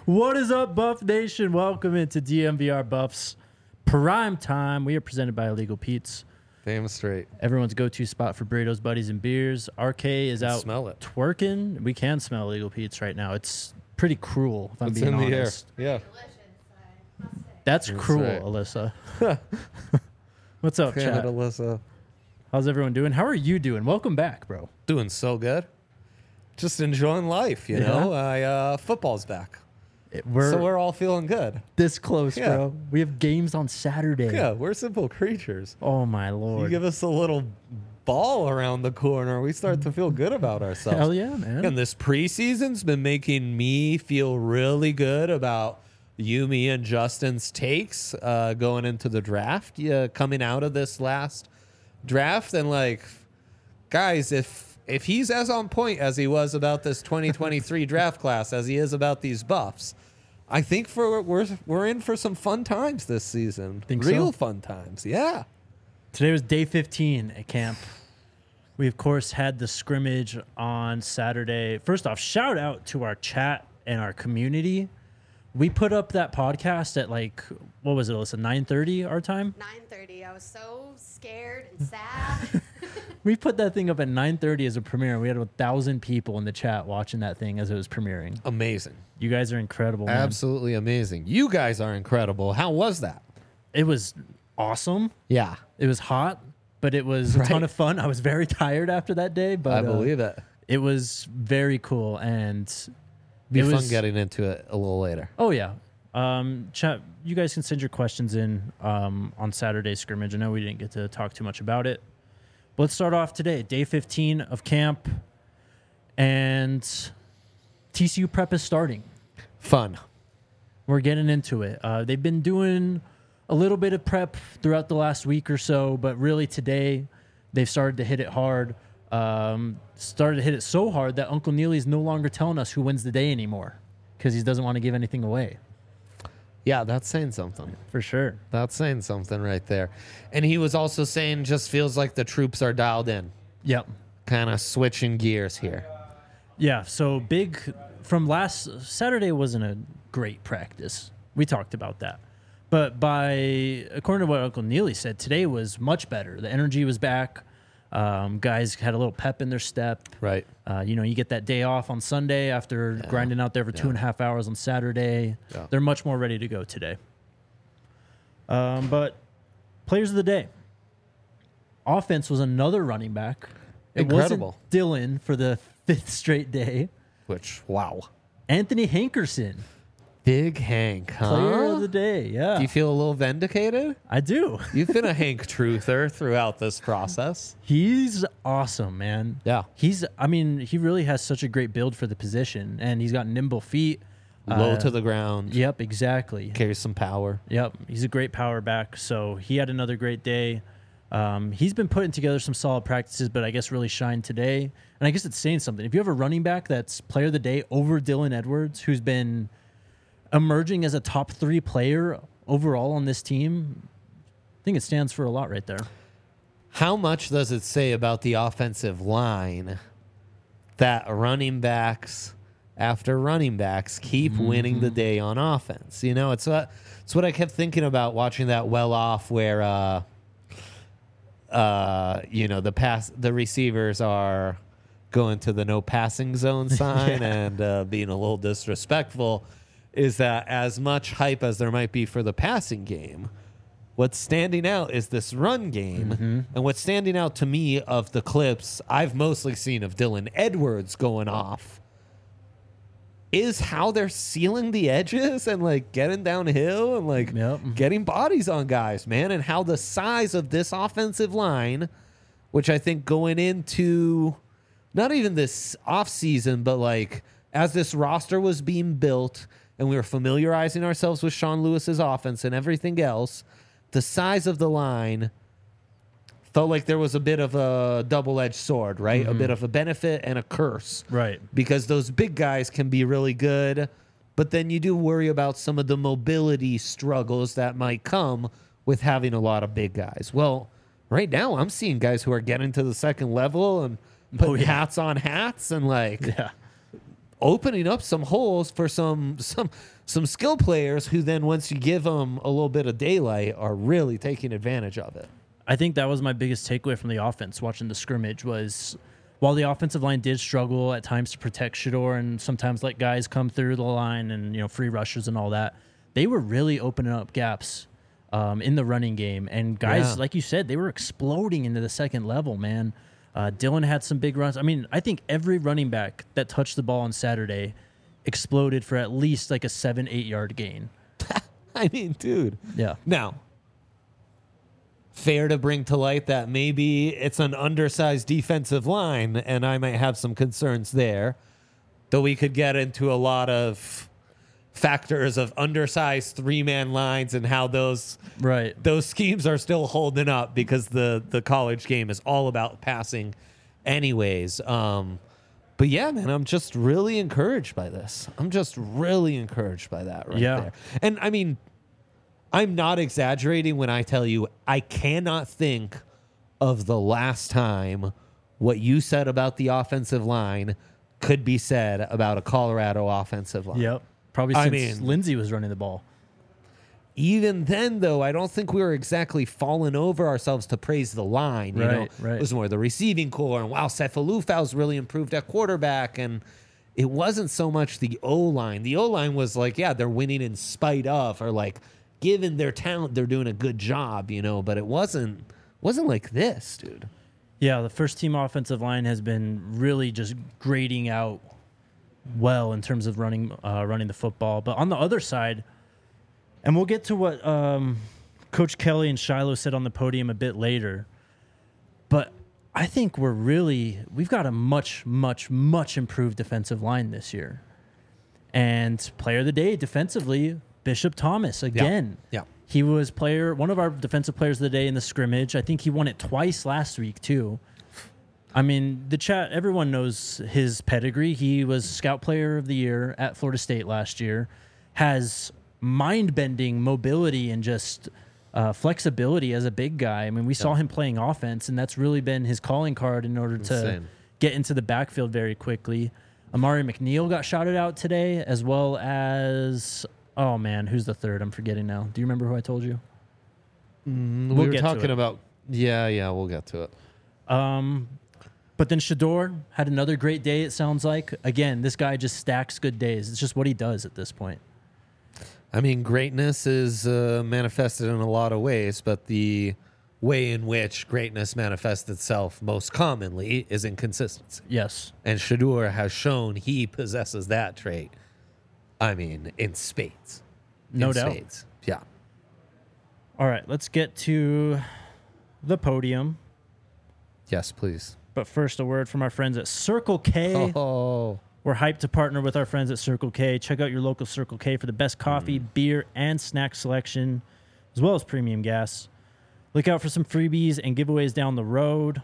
What is up, Buff Nation? Welcome into DMVR Buffs Prime Time. We are presented by Illegal Pete's. Damn straight. Everyone's go-to spot for burritos, buddies, and beers. RK is out smell it. twerking. We can smell Illegal Pete's right now. It's pretty cruel, if I'm It's being in the air. honest. Yeah. That's cruel, right. Alyssa. What's up, Damn it, chat? Alyssa. How's everyone doing? How are you doing? Welcome back, bro. Doing so good. Just enjoying life, you know. Football's back. We're all feeling good. this close, Yeah. bro. We have games on Saturday. Yeah, we're simple creatures. Oh, my You Lord. give us a little ball around the corner, we start to feel good about ourselves. Hell yeah, man. And this preseason's been making me feel really good about you, me, and Justin's takes going into the draft, coming out of this last draft. And like, guys, if he's as on point as he was about this 2023 draft class as he is about these buffs, I think we're in for some fun times this season. Think Real so? fun times. Yeah. Today was day 15 at camp. We, of course, had the scrimmage on Saturday. First off, shout out to our chat and our community. We put up that podcast at like, what was it, Alyssa, 9:30 our time? 9:30. I was so scared and sad. We put that thing up at 9:30 as a premiere. We had 1,000 people in the chat watching that thing as it was premiering. Amazing. You guys are incredible, man. Absolutely amazing. You guys are incredible. How was that? It was awesome. Yeah. It was hot, but it was a ton Right. of fun. I was very tired after that day, but I believe it. it was very cool. And Be it fun was, getting into it a little later. Oh, yeah. Chat, you guys can send your questions in on Saturday's scrimmage. I know we didn't get to talk too much about it. But let's start off today. Day 15 of camp. And TCU prep is starting. Fun. We're getting into it. They've been doing a little bit of prep throughout the last week or so, but really today they've started to hit it hard. Started to hit it so hard that Uncle Neely's no longer telling us who wins the day anymore because he doesn't want to give anything away. Yeah, that's saying something. For sure. That's saying something right there. And he was also saying just feels like the troops are dialed in. Yep. Kind of switching gears here. Yeah, so big from last Saturday wasn't a great practice. We talked about that. But according to what Uncle Neely said, today was much better. The energy was back. Guys had a little pep in their step. Right. You get that day off on Sunday after grinding out there for 2.5 hours on Saturday. Yeah. They're much more ready to go today. But players of the day. Offense was another running back. It Incredible. wasn't Dylan for the 5th straight day. Which, wow. Anthony Hankerson, Big Hank, huh? player of the day. Yeah, Do you feel a little vindicated? I do. You've been a Hank truther throughout this process. He's awesome, man. Yeah. He really has such a great build for the position, and he's got nimble feet. Low to the ground. Yep, exactly. Carries some power. Yep, he's a great power back. So he had another great day. He's been putting together some solid practices, but I guess really shined today. And I guess it's saying something. If you have a running back that's player of the day over Dylan Edwards, who's been emerging as a top 3 player overall on this team, I think it stands for a lot right there. How much does it say about the offensive line that running backs after running backs keep winning the day on offense? You know, it's what I kept thinking about watching that well off where the receivers are going to the no passing zone sign and being a little disrespectful, is that as much hype as there might be for the passing game, what's standing out is this run game. And what's standing out to me of the clips I've mostly seen of Dylan Edwards going off is how they're sealing the edges and like getting downhill and like getting bodies on guys, man. And how the size of this offensive line, which I think going into not even this offseason, but like as this roster was being built and we were familiarizing ourselves with Sean Lewis's offense and everything else, the size of the line felt like there was a bit of a double-edged sword, right? A bit of a benefit and a curse. Right. Because those big guys can be really good, but then you do worry about some of the mobility struggles that might come with having a lot of big guys. Well, right now I'm seeing guys who are getting to the second level and putting hats on hats and like opening up some holes for some skill players who then, once you give them a little bit of daylight, are really taking advantage of it. I think that was my biggest takeaway from the offense watching the scrimmage was while the offensive line did struggle at times to protect Shador and sometimes let guys come through the line and, free rushes and all that, they were really opening up gaps in the running game. And guys, like you said, they were exploding into the second level, man. Dylan had some big runs. I mean, I think every running back that touched the ball on Saturday exploded for at least like a 7-8 yard gain. I mean, dude. Yeah. Now, fair to bring to light that maybe it's an undersized defensive line, and I might have some concerns there, though we could get into a lot of factors of undersized three-man lines and how those schemes are still holding up because the college game is all about passing anyways. But yeah, man, I'm just really encouraged by this. I'm just really encouraged by that there. And I mean, I'm not exaggerating when I tell you I cannot think of the last time what you said about the offensive line could be said about a Colorado offensive line. Yep. Probably since Lindsey was running the ball. Even then, though, I don't think we were exactly falling over ourselves to praise the line. It was more the receiving core. And wow, Cephalufau's really improved at quarterback. And it wasn't so much the O-line. The O-line was like, yeah, they're winning in spite of, or like, given their talent, they're doing a good job, but it wasn't like this, dude. Yeah, the first team offensive line has been really just grading out well in terms of running the football. But on the other side, and we'll get to what Coach Kelly and Shiloh said on the podium a bit later, but I think we've got a much, much, much improved defensive line this year. And player of the day defensively, Bishop Thomas again. Yeah. He was one of our defensive players of the day in the scrimmage. I think he won it twice last week too. I mean, the chat, everyone knows his pedigree. He was Scout Player of the Year at Florida State last year, has mind-bending mobility and just flexibility as a big guy. I mean, we saw him playing offense, and that's really been his calling card in order to get into the backfield very quickly. Amari McNeil got shouted out today, as well as, oh man, who's the third? I'm forgetting now. Do you remember who I told you? We were talking about, we'll get to it. But then Shador had another great day, it sounds like. Again, this guy just stacks good days. It's just what he does at this point. I mean, greatness is manifested in a lot of ways, but the way in which greatness manifests itself most commonly is inconsistency. Yes. And Shador has shown he possesses that trait. I mean, in spades. No doubt. Spades. Yeah. All right, let's get to the podium. Yes, please. But first, a word from our friends at Circle K. Oh. We're hyped to partner with our friends at Circle K. Check out your local Circle K for the best coffee, beer, and snack selection, as well as premium gas. Look out for some freebies and giveaways down the road.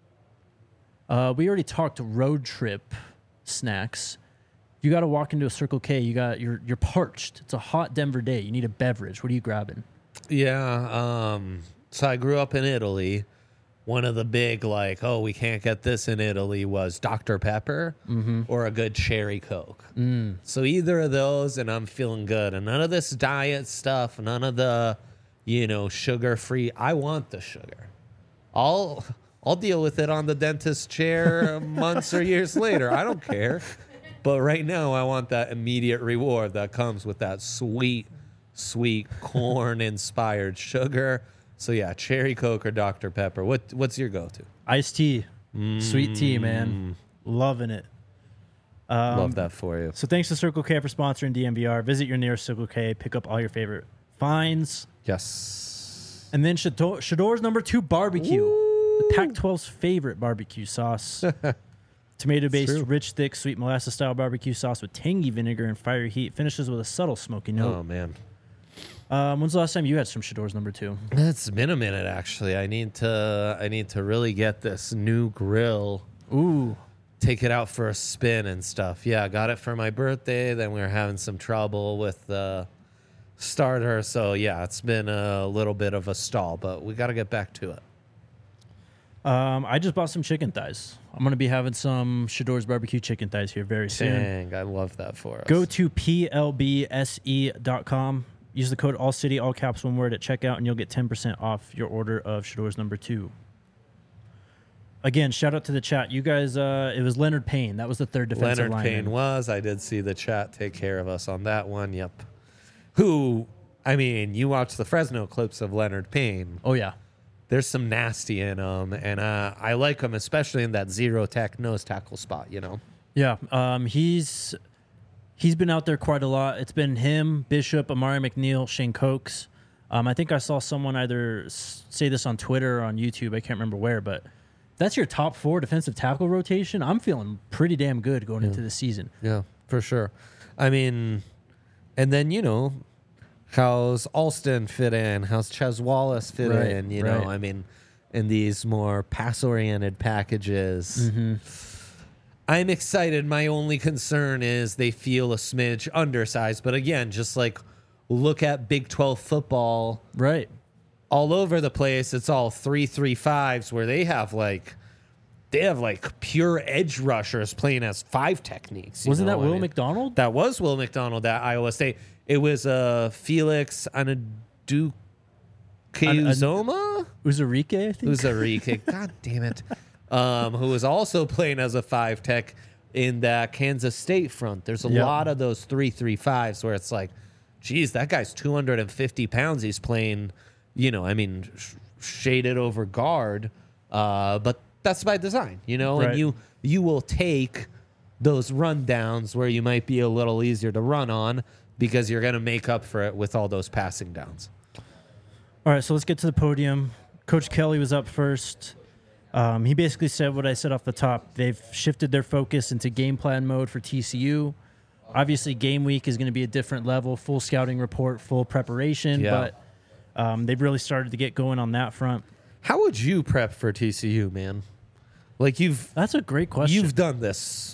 We already talked road trip snacks. You got to walk into a Circle K. You're parched. It's a hot Denver day. You need a beverage. What are you grabbing? Yeah. So I grew up in Italy. One of the big, we can't get this in Italy was Dr. Pepper or a good cherry Coke. So either of those, and I'm feeling good. And none of this diet stuff, none of the, sugar-free. I want the sugar. I'll deal with it on the dentist chair months or years later. I don't care. But right now, I want that immediate reward that comes with that sweet, sweet corn-inspired sugar. So yeah, cherry Coke or Dr. Pepper. What's your go-to? Iced tea. Sweet tea, man. Loving it. Love that for you. So thanks to Circle K for sponsoring DMVR. Visit your nearest Circle K. Pick up all your favorite finds. Yes. And then Shador's number 2 barbecue. Ooh. The Pac-12's favorite barbecue sauce. Tomato-based, rich, thick, sweet molasses-style barbecue sauce with tangy vinegar and fiery heat. Finishes with a subtle smoky note. Oh, man. When's the last time you had some Shador's number 2? It's been a minute, actually. I need to really get this new grill. Ooh. Take it out for a spin and stuff. Yeah, I got it for my birthday. Then we were having some trouble with the starter. So, yeah, it's been a little bit of a stall, but we got to get back to it. I just bought some chicken thighs. I'm going to be having some Shador's barbecue chicken thighs here very soon. Dang, I love that for us. Go to plbse.com. Use the code ALLCITY, all caps, one word at checkout, and you'll get 10% off your order of Shador's number 2. Again, shout out to the chat. You guys, it was Leonard Payne. That was the third defensive Leonard lineman. Payne was. I did see the chat take care of us on that one. Yep. Who, I mean, you watch the Fresno clips of Leonard Payne. Oh, yeah. There's some nasty in him, and I like him, especially in that zero tech nose tackle spot, you know? Yeah. He's been out there quite a lot. It's been him, Bishop, Amari McNeil, Shane Cokes. I think I saw someone either say this on Twitter or on YouTube. I can't remember where, but that's your top 4 defensive tackle rotation. I'm feeling pretty damn good going into the season. Yeah, for sure. I mean, and then, you know, how's Alston fit in? How's Ches Wallace fit in? You know, I mean, in these more pass-oriented packages. Mm-hmm. I'm excited. My only concern is they feel a smidge undersized. But again, just like look at Big 12 football. Right. All over the place. It's all 3-3-5s where they have like pure edge rushers playing as 5 techniques. Wasn't that Will McDonald? That was Will McDonald at Iowa State. It was Felix Anudukuzoma? Uzarike, I think. Uzarike. God damn it. Who was also playing as a 5 tech in that Kansas State front. There's a lot of those 3-3-5s where it's like, geez, that guy's 250 pounds. He's playing, you know, I mean, shaded over guard. But that's by design, you know, and you will take those rundowns where you might be a little easier to run on because you're going to make up for it with all those passing downs. All right, so let's get to the podium. Coach Kelly was up first. He basically said what I said off the top. They've shifted their focus into game plan mode for TCU. Obviously, game week is going to be a different level, full scouting report, full preparation, but they've really started to get going on that front. How would you prep for TCU, man? Like That's a great question. You've done this.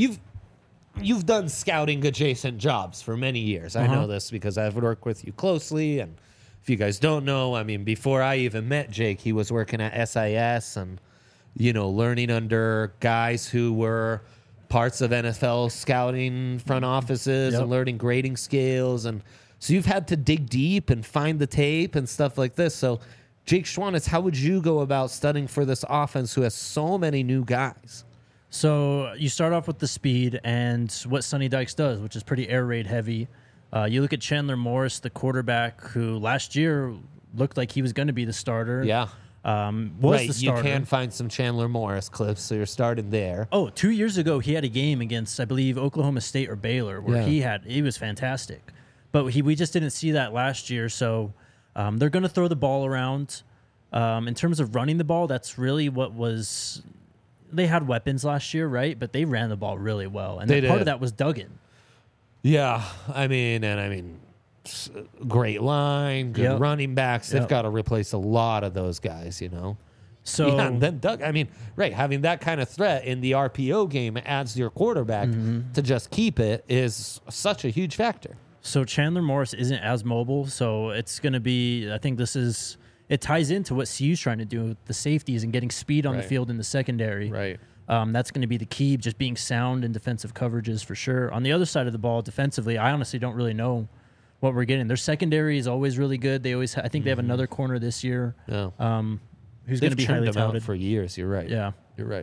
You've done scouting adjacent jobs for many years. I know this because I've worked with you closely. And if you guys don't know, I mean, before I even met Jake, he was working at SIS and, you know, learning under guys who were parts of NFL scouting front offices and learning grading scales. And so you've had to dig deep and find the tape and stuff like this. So Jake Schwanitz, how would you go about studying for this offense who has so many new guys? So you start off with the speed and what Sonny Dykes does, which is pretty air raid heavy. You look at Chandler Morris, the quarterback, who last year looked like he was going to be the starter. Yeah. Was the starter. You can find some Chandler Morris clips, so you're starting there. Oh, 2 years ago, he had a game against, I believe, Oklahoma State or Baylor, where he was fantastic. But we just didn't see that last year, so they're going to throw the ball around. In terms of running the ball, that's really what was... They had weapons last year, right? But they ran the ball really well. And part of that was Duggan. Yeah, I mean, great line, good running backs. They've got to replace a lot of those guys, you know. So and then Doug, I mean, having that kind of threat in the RPO game adds to your quarterback to just keep it is such a huge factor. So Chandler Morris isn't as mobile, so it's going to be. I think it ties into what CU's trying to do with the safeties and getting speed on the field in the secondary. Right. That's going to be the key, just being sound in defensive coverages for sure. On the other side of the ball, defensively, I honestly don't really know what we're getting. Their secondary is always really good. They always, I think they have another corner this year. Yeah. Who's going to be highly them touted out for years. You're right. Yeah. You're right.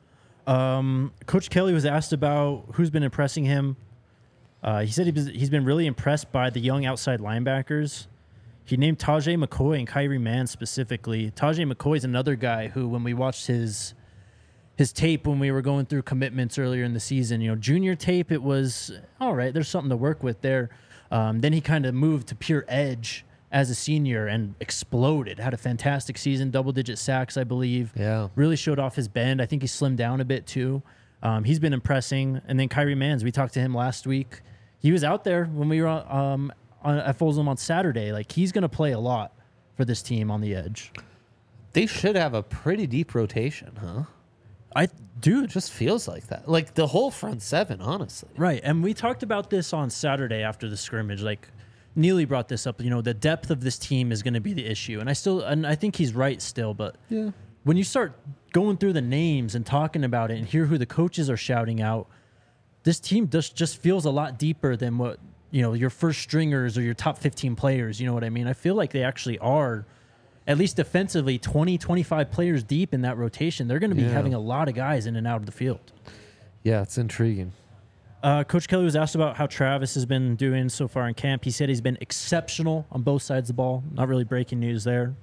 Coach Kelly was asked about who's been impressing him. He said he's been really impressed by the young outside linebackers. He named Tajay McCoy and Kyrie Mann specifically. Tajay McCoy is another guy who, when we watched his tape when we were going through commitments earlier in the season, junior tape, it was all right. There's something to work with there. Then he kind of moved to pure edge as a senior and exploded. Had a fantastic season, double-digit sacks, I believe. Yeah. Really showed off his bend. I think he slimmed down a bit too. He's been impressing. And then Kyrie Manns, we talked to him last week. He was out there when we were at Folsom on Saturday. Like, he's going to play a lot for this team on the edge. They should have a pretty deep rotation, huh? It just feels like that. Like the whole front seven, honestly. Right. And we talked about this on Saturday after the scrimmage. Like, Neely brought this up. The depth of this team is going to be the issue. And I think he's right still. But when you start going through the names and talking about it and hear who the coaches are shouting out, this team just feels a lot deeper than what, your first stringers or your top 15 players. You know what I mean? I feel like they actually are, at least defensively, 20, 25 players deep in that rotation. They're going to be having a lot of guys in and out of the field. Yeah, it's intriguing. Coach Kelly was asked about how Travis has been doing so far in camp. He said he's been exceptional on both sides of the ball. Not really breaking news there.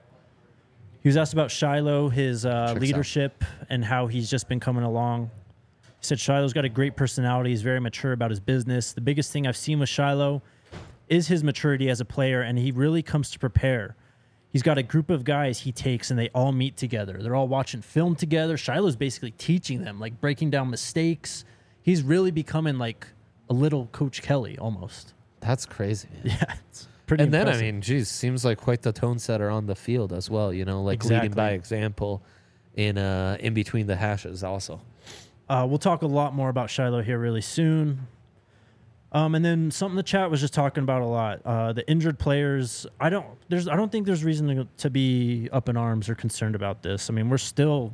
He was asked about Shiloh, his leadership, and how he's just been coming along. He said Shiloh's got a great personality. He's very mature about his business. The biggest thing I've seen with Shiloh is his maturity as a player, and he really comes to prepare. He's got a group of guys he takes, and they all meet together. They're all watching film together. Shiloh's basically teaching them, like breaking down mistakes. He's really becoming like a little Coach Kelly almost. That's crazy. Yeah, it's pretty And impressive. then, I mean, geez, seems like quite the tone setter on the field as well, like leading by example in between the hashes also. We'll talk a lot more about Shiloh here really soon. And then something the chat was just talking about a lot. The injured players. I don't think there's reason to be up in arms or concerned about this. I mean, we're still,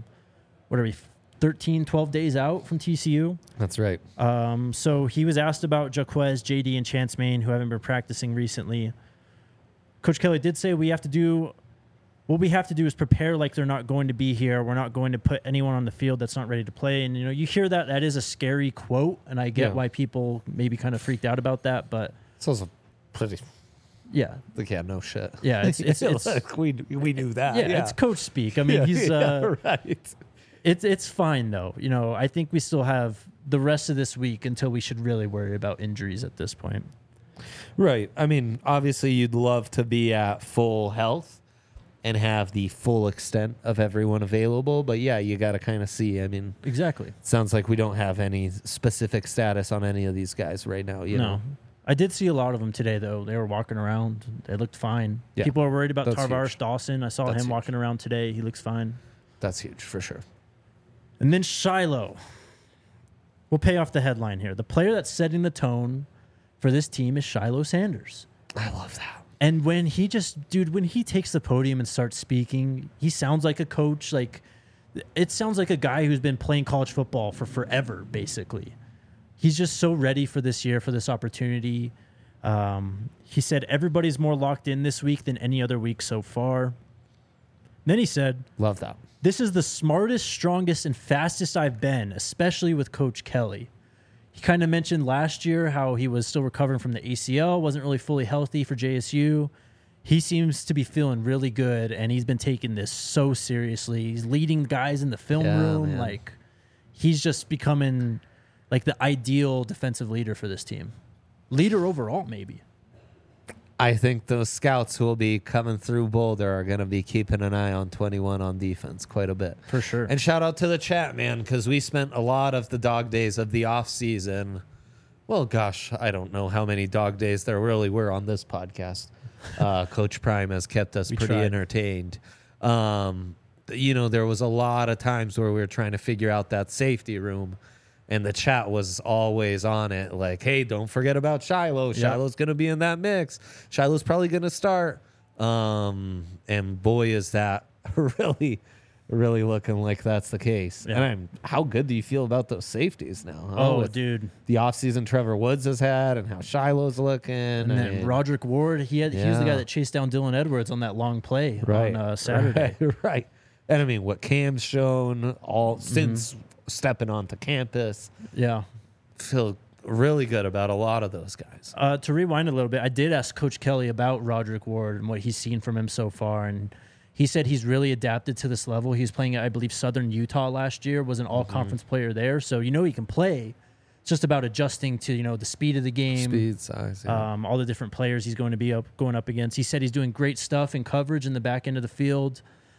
13, 12 days out from TCU. That's right. So he was asked about Jaquez, JD, and Chance Main, who haven't been practicing recently. Coach Kelly did say what we have to do is prepare like they're not going to be here. We're not going to put anyone on the field that's not ready to play. And, you hear that is a scary quote, and I get why people maybe kind of freaked out about that, but It's also pretty, yeah. like, yeah, no shit. Yeah, it's like we knew that. yeah, it's coach speak. I mean, he's right. It's fine though. I think we still have the rest of this week until we should really worry about injuries at this point. Right. I mean, obviously you'd love to be at full health and have the full extent of everyone available, but yeah, you got to kind of see. I mean, Exactly. it sounds like we don't have any specific status on any of these guys right now, you know. I did see a lot of them today, though. They were walking around. They looked fine. Yeah. People are worried about That's Tarvaris huge. Dawson. I saw That's him huge. walking around today. He looks fine. That's huge for sure. And then Shiloh. We'll pay off the headline here. The player that's setting the tone for this team is Shiloh Sanders. I love that. And when he takes the podium and starts speaking, he sounds like a coach. Like, it sounds like a guy who's been playing college football for forever, basically. He's just so ready for this year, for this opportunity. He said everybody's more locked in this week than any other week so far. Then he said, Love that. "This is the smartest, strongest, and fastest I've been, especially with Coach Kelly." He kind of mentioned last year how he was still recovering from the ACL, wasn't really fully healthy for JSU. He seems to be feeling really good, and he's been taking this so seriously. He's leading guys in the film room. Man. Like, he's just becoming like the ideal defensive leader for this team. Leader overall, maybe. I think those scouts who will be coming through Boulder are going to be keeping an eye on 21 on defense quite a bit. For sure. And shout out to the chat, man, because we spent a lot of the dog days of the off season. Well, gosh, I don't know how many dog days there really were on this podcast. Coach Prime has kept us pretty tried. entertained. There was a lot of times where we were trying to figure out that safety room. And the chat was always on it, like, hey, don't forget about Shiloh. Yep. Shiloh's going to be in that mix. Shiloh's probably going to start. And boy, is that really, really looking like that's the case. Yeah. And how good do you feel about those safeties now? Huh? Oh, With dude. the offseason Trevor Woods has had and how Shiloh's looking. And then Roderick Ward, he was the guy Yeah. that chased down Dylan Edwards on that long play right. on Saturday. Right. And I mean, what Cam's shown since stepping onto campus, Yeah. feel really good about a lot of those guys. To rewind a little bit, I did ask Coach Kelly about Roderick Ward and what he's seen from him so far, and he said he's really adapted to this level. He was playing at, I believe, Southern Utah last year, was an all-conference player there, so he can play. It's just about adjusting to the speed of the game, Speed, size, yeah. all the different players he's going up against. He said he's doing great stuff in coverage in the back end of the field.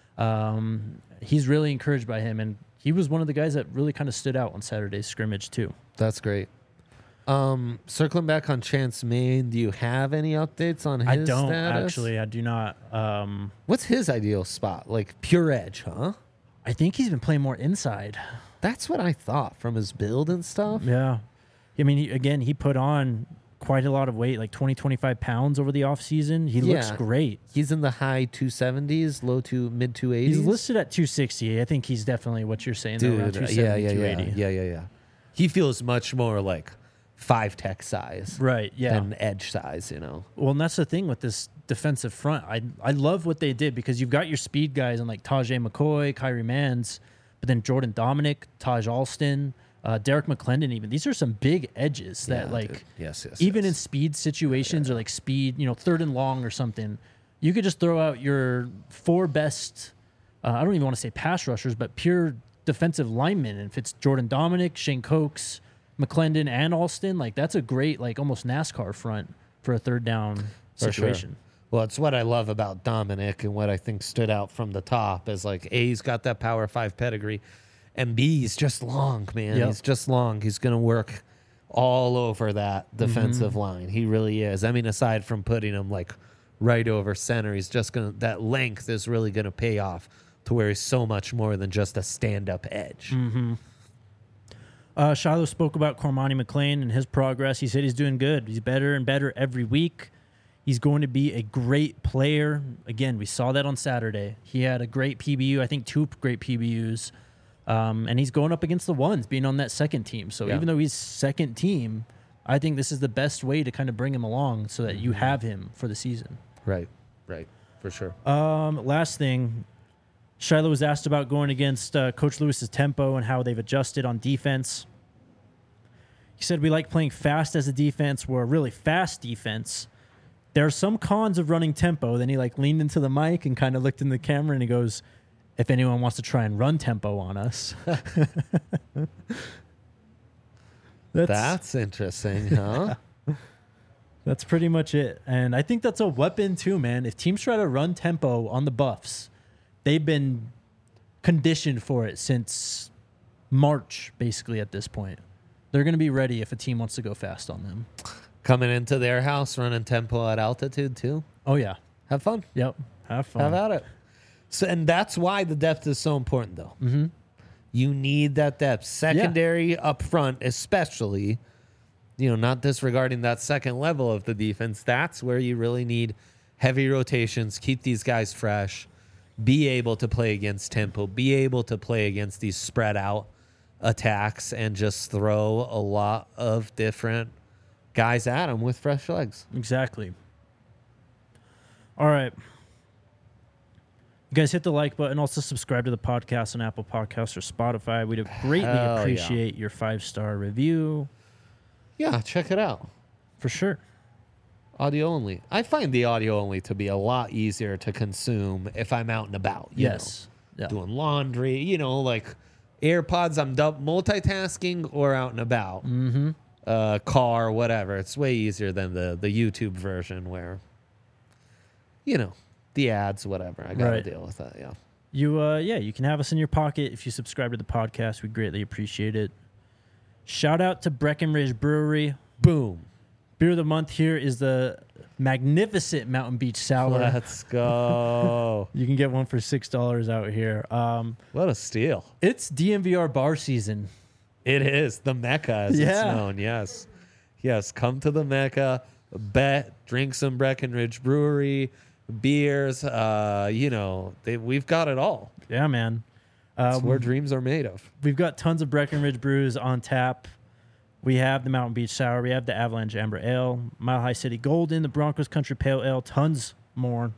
He's really encouraged by him, and he was one of the guys that really kind of stood out on Saturday's scrimmage too. That's great. Circling back on Chance Main, do you have any updates on his I don't status? actually. I do not. What's his ideal spot? Like pure edge, huh? I think he's been playing more inside. That's what I thought from his build and stuff. Yeah. I mean, he put on quite a lot of weight, like 20, 25 pounds over the offseason. He looks Yeah. great. He's in the high 270s, low to mid 280s. He's listed at 260. I think he's definitely what you're saying, though, around Dude, 270, 280. yeah. He feels much more like 5-tech size Right, yeah. than edge size, you know. Well, and that's the thing with this defensive front. I love what they did because you've got your speed guys and like Tajay McCoy, Kyrie Mans, but then Jordan Dominic, Taj Alston, Derek McClendon even. These are some big edges that Yeah, like dude. Yes, even in yes. speed situations or like speed, third and long or something, you could just throw out your 4 best, I don't even want to say pass rushers, but pure defensive linemen. And if it's Jordan Dominic, Shane Cokes, McClendon, and Alston, like that's a great, like almost NASCAR front for a third down For situation. Sure. Well, it's what I love about Dominic and what I think stood out from the top is like A, he's got that Power 5 pedigree, and B, he's just long, man. Yep. He's just long. He's going to work all over that defensive line. He really is. I mean, aside from putting him like right over center, he's just going to, that length is really going to pay off to where he's so much more than just a stand-up edge. Shiloh spoke about Cormani McLean and his progress. He said he's doing good. He's better and better every week. He's going to be a great player. Again, we saw that on Saturday. He had a great PBU, I think 2 great PBUs. And he's going up against the ones, being on that second team. So Yeah. even though he's second team, I think this is the best way to kind of bring him along so that you have him for the season. Right, for sure. Last thing, Shiloh was asked about going against Coach Lewis's tempo and how they've adjusted on defense. He said, we like playing fast as a defense. We're a really fast defense. There are some cons of running tempo. Then he like leaned into the mic and kind of looked in the camera and he goes, if anyone wants to try and run tempo on us. That's interesting, huh? That's pretty much it. And I think that's a weapon too, man. If teams try to run tempo on the Buffs, they've been conditioned for it since March, basically, at this point. They're going to be ready if a team wants to go fast on them. Coming into their house, running tempo at altitude too. Oh, yeah. Have fun. Yep. Have fun. Have at it. So, and that's why the depth is so important, though. Mm-hmm. You need that depth, secondary up front, especially. Not disregarding that second level of the defense. That's where you really need heavy rotations. Keep these guys fresh. Be able to play against tempo. Be able to play against these spread out attacks, and just throw a lot of different guys at them with fresh legs. Exactly. All right. You guys hit the like button. Also subscribe to the podcast on Apple Podcasts or Spotify. We'd greatly Hell yeah. appreciate your 5-star review. Yeah, check it out. For sure. Audio only. I find the audio only to be a lot easier to consume if I'm out and about. Yes. Yeah. Doing laundry, like AirPods, I'm multitasking or out and about. Mm-hmm. Car, whatever. It's way easier than the YouTube version where, the ads, whatever. I got to Right. deal with that, yeah. You can have us in your pocket if you subscribe to the podcast. We greatly appreciate it. Shout out to Breckenridge Brewery. Boom. Beer of the month here is the magnificent Mountain Beach Sour. Let's go. You can get one for $6 out here. What a steal. It's DMVR bar season. It is the Mecca, as it's Yeah. known. Yes. Yes. Come to the Mecca, bet, drink some Breckenridge Brewery, beers. We've got it all. Yeah, man. It's where dreams are made of. We've got tons of Breckenridge brews on tap. We have the Mountain Beach Sour. We have the Avalanche Amber Ale, Mile High City Golden, the Broncos Country Pale Ale, tons more.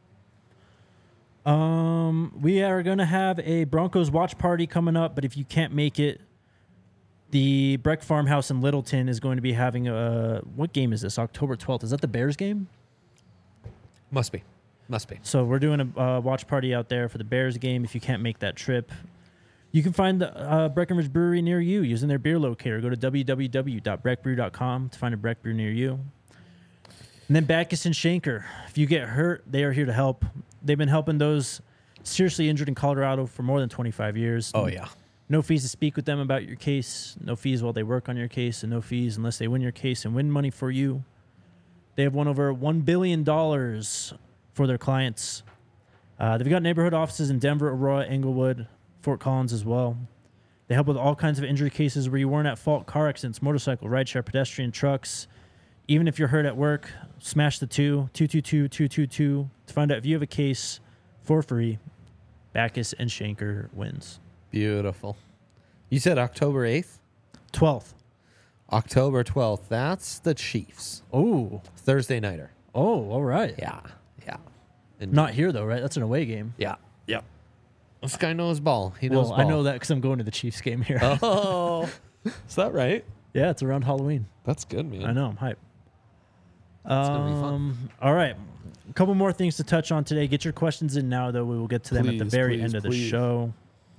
We are going to have a Broncos watch party coming up, but if you can't make it, the Breck Farmhouse in Littleton is going to be having what game is this? October 12th. Is that the Bears game? Must be. So we're doing a watch party out there for the Bears game if you can't make that trip. You can find the Breckenridge Brewery near you using their beer locator. Go to www.breckbrew.com to find a Breck Brew near you. And then Backus and Shanker. If you get hurt, they are here to help. They've been helping those seriously injured in Colorado for more than 25 years. Oh, yeah. No fees to speak with them about your case. No fees while they work on your case, and no fees unless they win your case and win money for you. They have won over $1 billion for their clients. They've got neighborhood offices in Denver, Aurora, Englewood, Fort Collins as well. They help with all kinds of injury cases where you weren't at fault: car accidents, motorcycle, rideshare, pedestrian, trucks, Even if you're hurt at work, smash the 222-222 to find out if you have a case for free. Backus and Shanker wins. Beautiful. You said October 8th? 12th. October 12th. That's the Chiefs. Oh. Thursday nighter. Oh, all right. Yeah. And Not here, though, right? That's an away game. Yeah. Yep. This guy knows ball. He knows Well, ball. I know that because I'm going to the Chiefs game here. Oh. Is that right? Yeah, it's around Halloween. That's good, man. I know. I'm hyped. gonna be fun. All right. A couple more things to touch on today. Get your questions in now, though. We will get to them at the Please, very please, end of the please. show.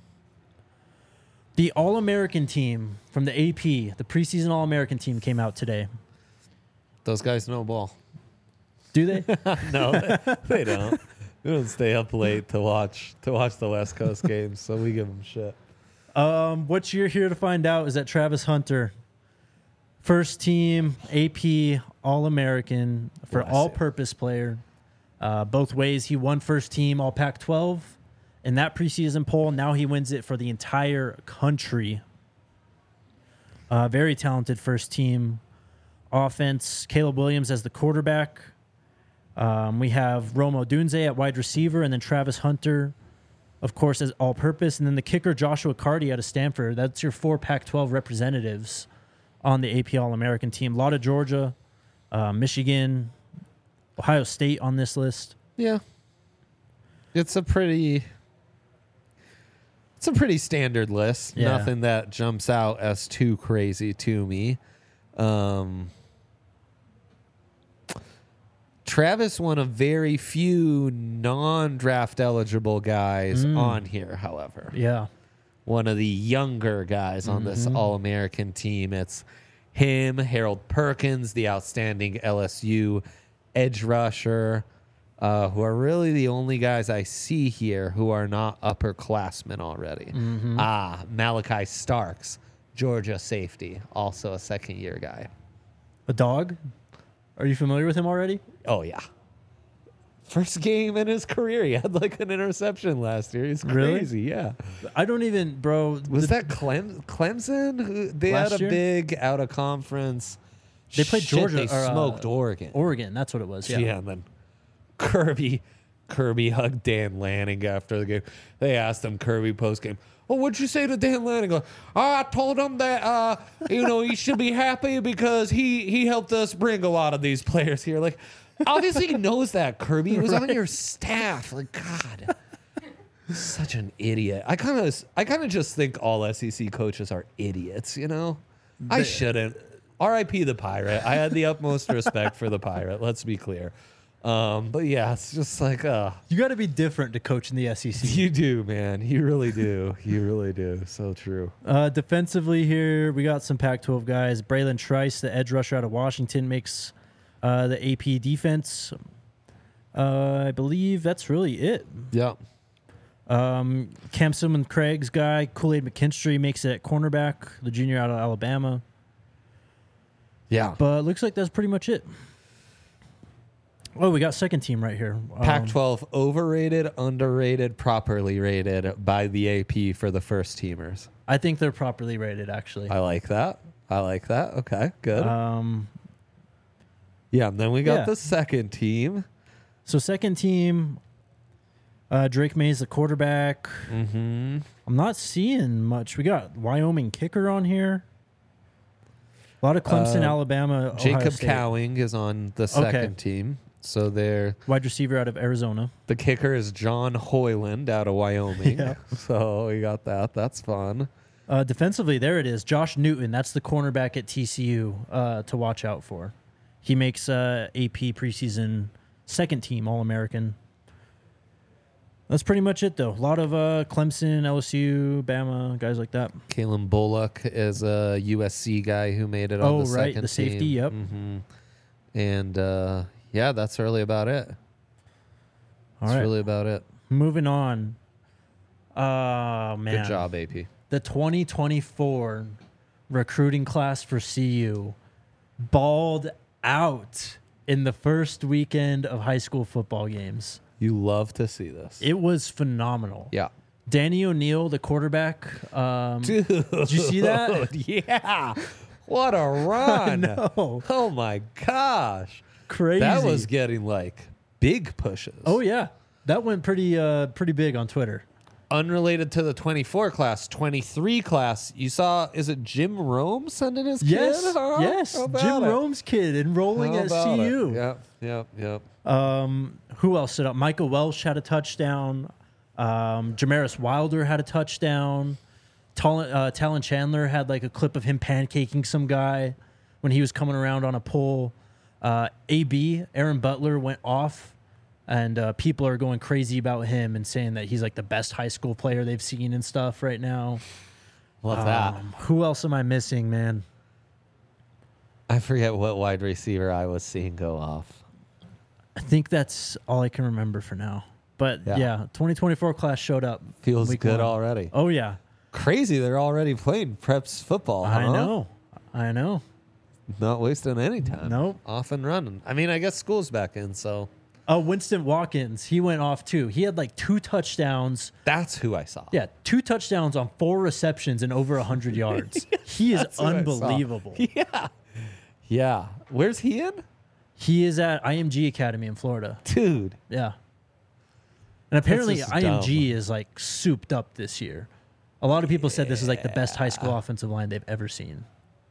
The All-American team from the AP, the preseason All-American team, came out today. Those guys know ball. Do they? No, they don't. We don't stay up late to watch the West Coast games, so we give them shit. What you're here to find out is that Travis Hunter, first team AP All-American for Bless you. all-purpose player. Both ways, he won first team All Pac-12 in that preseason poll. Now he wins it for the entire country. Very talented first team offense. Caleb Williams as the quarterback. We have Rome Odunze at wide receiver, and then Travis Hunter, of course, as all-purpose. And then the kicker, Joshua Carty out of Stanford. That's your 4 Pac-12 representatives on the AP All-American team. A lot of Georgia, Michigan, Ohio State on this list. Yeah, it's a pretty standard list. Yeah. Nothing that jumps out as too crazy to me. Travis, one of very few non-draft eligible guys on here, however. Yeah. One of the younger guys on this All-American team. It's him, Harold Perkins, the outstanding LSU edge rusher, who are really the only guys I see here who are not upperclassmen already. Malachi Starks, Georgia safety, also a second-year guy. A dog? Are you familiar with him already? Oh, yeah. First game in his career, he had like an interception last year. He's Really? crazy, yeah. I don't even, bro. Was that Clemson? They Last had a year? big out-of-conference. They played Shit, Georgia, They or, smoked Oregon. Oregon, that's what it was. Yeah. And then Kirby hugged Dan Lanning after the game. They asked him Kirby post-game, well, what'd you say to Dan Lanning? Like, I told him that, he should be happy because he helped us bring a lot of these players here. Like, obviously he knows that, Kirby. He was on your staff. Like, God. Such an idiot. I kind of just think all SEC coaches are idiots, you know? I shouldn't. R.I.P. the Pirate. I had the utmost respect for the Pirate. Let's be clear. But yeah, it's just like, You got to be different to coach in the SEC. you do, man. You really do. You really do. So true. Defensively here, we got some Pac-12 guys. Braylon Trice, the edge rusher out of Washington, makes the AP defense. I believe that's really it. Yep. Cam Simon Craig's guy, Kool-Aid McKinstry, makes it at cornerback, the junior out of Alabama. Yeah. But looks like that's pretty much it. Oh, we got second team right here. Pac-12 overrated, underrated, properly rated by the AP for the first teamers. I think they're properly rated, actually. I like that. Okay, good. Yeah, and then we got yeah. the second team. So second team, Drake May's the quarterback. Mm-hmm. I'm not seeing much. We got Wyoming kicker on here. A lot of Clemson, Alabama, Ohio Jacob State. Cowing is on the second team. So they're Wide receiver out of Arizona. the kicker is John Hoyland out of Wyoming. Yeah. So we got that. That's fun. Defensively, there it is. Josh Newton. That's the cornerback at TCU to watch out for. He makes AP preseason second team All-American. That's pretty much it, though. A lot of Clemson, LSU, Bama, guys like that. Kalen Bullock is a USC guy who made it on the second team. The safety, yep. Mm-hmm. And yeah, that's really about it. All That's right. really about it. Moving on. Oh, man. Good job, AP. The 2024 recruiting class for CU balled out in the first weekend of high school football games. You love to see this. It was phenomenal. Yeah. Danny O'Neal, the quarterback. Dude. Did you see that? Yeah. What a run. know. Oh, my gosh. Crazy. That was getting like big pushes. Oh yeah, that went pretty big on Twitter. Unrelated to the 24 class, 23 class, you saw, is it Jim Rome sending his Yes, kid? Huh? yes, How about Jim it? Rome's kid enrolling How at about it? CU. Yep. Who else stood up? Michael Welsh had a touchdown. Jamaris Wilder had a touchdown. Talon Chandler had like a clip of him pancaking some guy when he was coming around on a pole. AB, Aaron Butler, went off, and people are going crazy about him and saying that he's like the best high school player they've seen and stuff right now. Love that. Who else am I missing, man? I forget what wide receiver I was seeing go off. I think that's all I can remember for now. But yeah, 2024 class showed up. Feels week good one. already. Oh, yeah. Crazy, they're already playing preps football. I huh? know. Not wasting any time. Nope. Off and running. I mean, I guess school's back in, so. Oh, Winston Watkins, he went off too. He had like 2 touchdowns. That's who I saw. Yeah, 2 touchdowns on 4 receptions and over 100 yards. He is That's who I saw. unbelievable. Yeah. Where's he in? He is at IMG Academy in Florida. Dude. Yeah. And apparently just IMG is like souped up this year. A lot of people said this is like the best high school offensive line they've ever seen.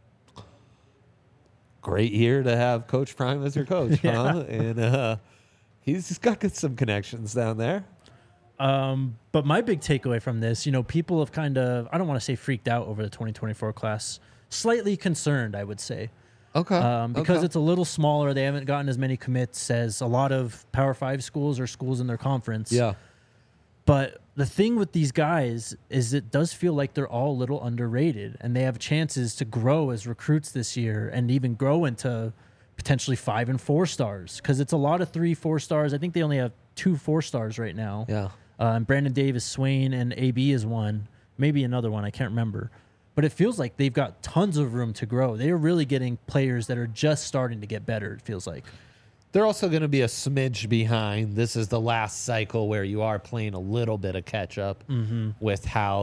Great year to have Coach Prime as your coach, Yeah. huh? And he's got some connections down there. But my big takeaway from this, people have kind of, I don't want to say freaked out over the 2024 class, slightly concerned, I would say. Okay. Because it's a little smaller. They haven't gotten as many commits as a lot of Power 5 schools or schools in their conference. Yeah. But the thing with these guys is it does feel like they're all a little underrated, and they have chances to grow as recruits this year and even grow into potentially 5 and 4 stars, because it's a lot of 3-4 stars. I think they only have 2 4-stars right now. Yeah. And Brandon Davis, Swain, and AB is one, maybe another one. I can't remember. But it feels like they've got tons of room to grow. They are really getting players that are just starting to get better, it feels like. They're also going to be a smidge behind. This is the last cycle where you are playing a little bit of catch up with how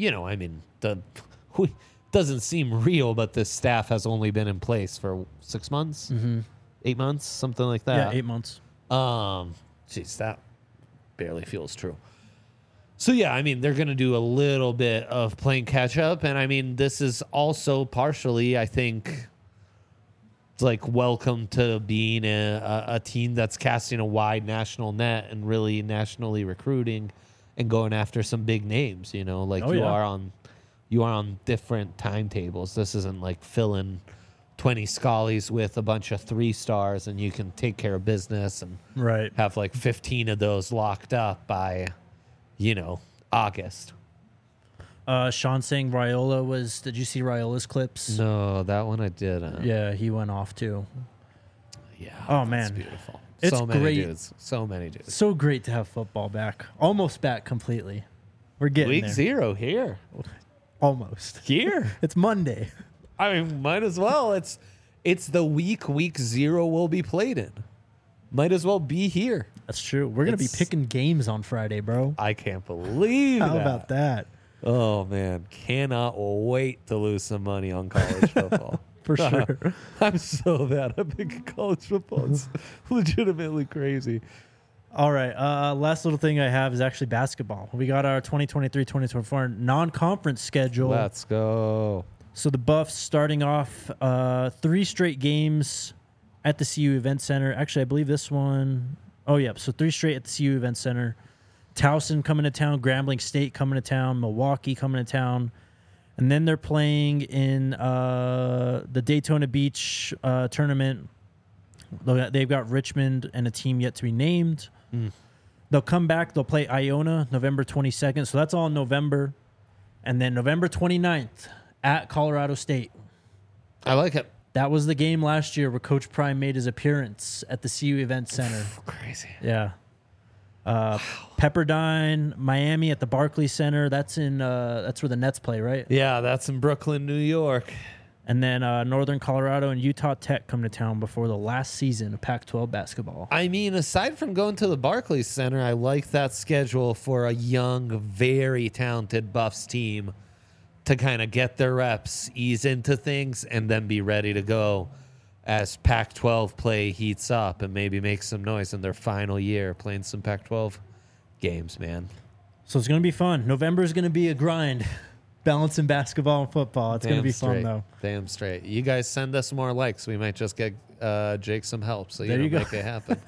doesn't seem real, but this staff has only been in place for 6 months, 8 months, something like that. Yeah, 8 months. Jeez, that barely feels true. So, yeah, I mean, they're going to do a little bit of playing catch up. And, I mean, this is also partially, I think, like welcome to being a team that's casting a wide national net and really nationally recruiting and going after some big names, you are on different timetables. This isn't like filling 20 Scullies with a bunch of 3-stars and you can take care of business and Right. have like 15 of those locked up by, August. Sean saying Raiola was, did you see Raiola's clips? No, that one I didn't. Yeah, he went off too. Yeah. Oh, that's man. beautiful. It's so many great. dudes. So many dudes. So great to have football back. Almost back completely. We're getting Week there. 0 here. Almost. Here. It's Monday. I mean, might as well. It's the week 0 will be played in. Might as well be here. That's true. We're going to be It's- picking games on Friday, bro. I can't believe How that. about that? Oh, man. Cannot wait to lose some money on college football. For sure. I'm so bad at picking college football. It's legitimately crazy. All right. Last little thing I have is actually basketball. We got our 2023-2024 non-conference schedule. Let's go. So the Buffs starting off 3 straight games at the CU Event Center. Actually, I believe this one. Oh, yeah. So 3 straight at the CU Event Center. Towson coming to town. Grambling State coming to town. Milwaukee coming to town. And then they're playing in the Daytona Beach tournament. They've got Richmond and a team yet to be named. They'll come back. They'll play Iona November 22nd. So that's all in November. And then November 29th at Colorado State. I like it. That was the game last year where Coach Prime made his appearance at the CU Event Center. Crazy. Yeah. Pepperdine, Miami at the Barclays Center. That's in that's where the Nets play, right? Yeah, that's in Brooklyn, New York. And then Northern Colorado and Utah Tech come to town before the last season of Pac-12 basketball. I mean, aside from going to the Barclays Center, I like that schedule for a young, very talented Buffs team to kind of get their reps, ease into things, and then be ready to go as Pac-12 play heats up and maybe make some noise in their final year playing some Pac-12 games, man. So it's going to be fun. November is going to be a grind, balancing basketball and football. It's going to be fun, though. Damn straight. You guys send us more likes. We might just get Jake some help so There you go. make it happen.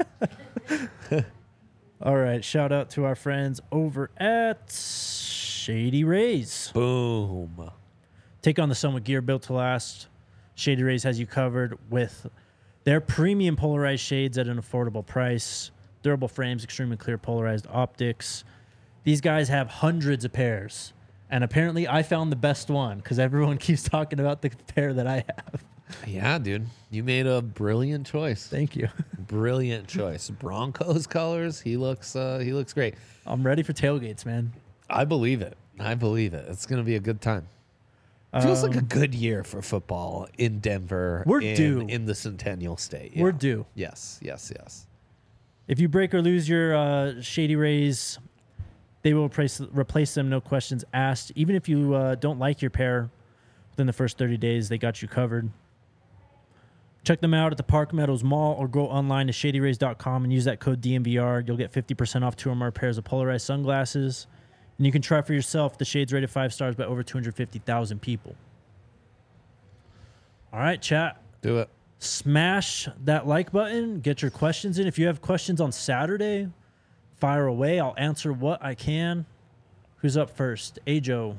All right. Shout out to our friends over at Shady Rays. Boom. Take on the sun with gear built to last. Shady Rays has you covered with their premium polarized shades at an affordable price. Durable frames, extremely clear polarized optics. These guys have hundreds of pairs. And apparently I found the best one because everyone keeps talking about the pair that I have. Yeah, dude. You made a brilliant choice. Thank you. Brilliant choice. Broncos colors. He looks great. I'm ready for tailgates, man. I believe it. It's going to be a good time. Feels like a good year for football in Denver. We're due. In the Centennial State. We're due. Yes. If you break or lose your Shady Rays, they will replace them, no questions asked. Even if you don't like your pair within the first 30 days, they got you covered. Check them out at the Park Meadows Mall or go online to shadyrays.com and use that code DMVR. You'll get 50% off 2 or more pairs of polarized sunglasses. And you can try for yourself. The shades rated 5 stars by over 250,000 people. All right, chat. Do it. Smash that like button. Get your questions in. If you have questions on Saturday, fire away. I'll answer what I can. Who's up first? Ajo.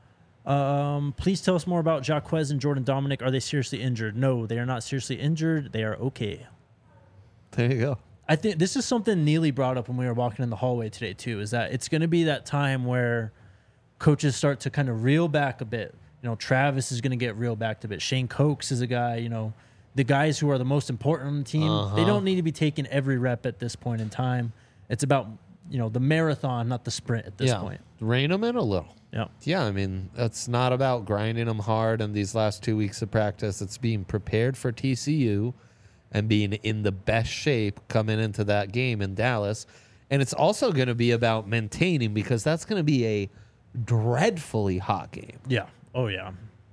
Please tell us more about Jaquez and Jordan Dominic. Are they seriously injured? No, they are not seriously injured. They are okay. There you go. I think this is something Neely brought up when we were walking in the hallway today, too, is that it's going to be that time where coaches start to kind of reel back a bit. You know, Travis is going to get reeled back a bit. Shane Cokes is a guy, you know, the guys who are the most important on the team, they don't need to be taking every rep at this point in time. It's about, you know, the marathon, not the sprint at this point. Rein them in a little. Yeah. Yeah, I mean, it's not about grinding them hard in these last 2 weeks of practice. It's being prepared for TCU and being in the best shape coming into that game in Dallas. And it's also going to be about maintaining because that's going to be a dreadfully hot game. Yeah. Oh, yeah.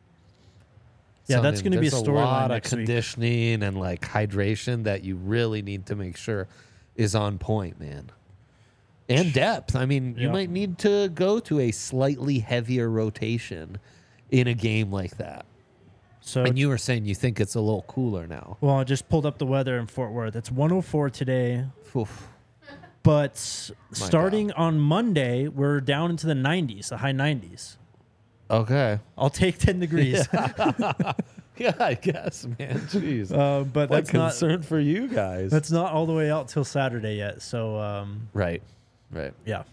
Yeah, that's going to be a storyline There's a lot of next week. conditioning and like hydration that you really need to make sure is on point, man. And depth. I mean, you might need to go to a slightly heavier rotation in a game like that. So, And you were saying you think it's a little cooler now. well, I just pulled up the weather in Fort Worth. It's 104 today. Oof. But starting on Monday, we're down into the 90s, the high 90s. Okay. I'll take 10 degrees. Yeah, I guess, man. Jeez. But What that's not concern for you guys. that's not all the way out till Saturday yet. So Right. yeah.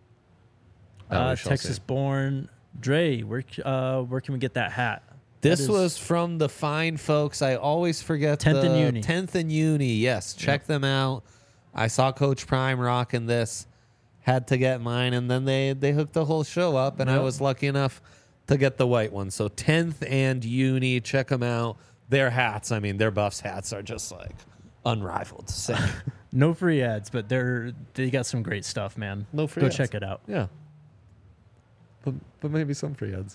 We shall Texas see. born Dre, where can we get that hat? This That is- was from the fine folks. I always forget 10th and the Uni. 10th and Uni. Yes, check them out. I saw Coach Prime rocking this. Had to get mine, and then they hooked the whole show up, and I Yep. was lucky enough to get the white one. So 10th and Uni, check them out. Their hats, I mean, their Buffs hats are just like unrivaled. Same. No free ads, but they got some great stuff, man. No free Go ads. check it out. Yeah. But maybe some free ads.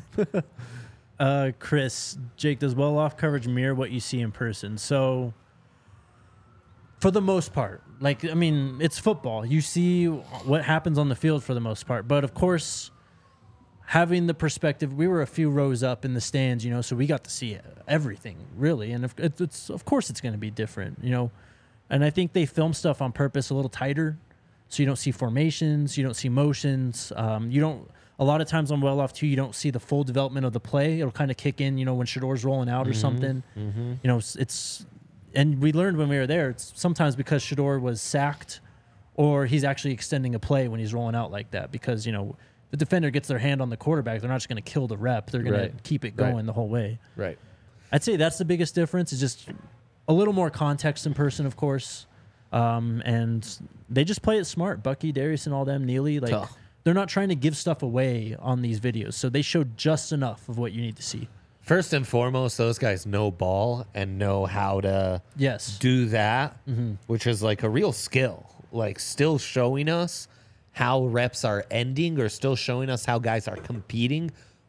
Chris, Jake, does well-off coverage mirror what you see in person? So, for the most part, like, I mean, it's football. You see what happens on the field for the most part. But, of course, having the perspective, we were a few rows up in the stands, you know, so we got to see everything, really. And of course it's going to be different, you know. And I think they film stuff on purpose a little tighter, so you don't see formations, you don't see motions, you don't. A lot of times on well off too, you don't see the full development of the play. It'll kind of kick in, you know, when Shador's rolling out or something. You know, it's and we learned when we were there. It's sometimes because Shador was sacked, or he's actually extending a play when he's rolling out like that. Because you know, the defender gets their hand on the quarterback, they're not just going to kill the rep. They're going Right. to keep it going the whole way. Right. I'd say that's the biggest difference. Is just a little more context in person, of course. And they just play it smart. Bucky, Darius, and all them, Neely, like. Tough. They're not trying to give stuff away on these videos, so they show just enough of what you need to see. First and foremost, those guys know ball and know how to Yes. do that, which is like a real skill. Like still showing us how reps are ending or still showing us how guys are competing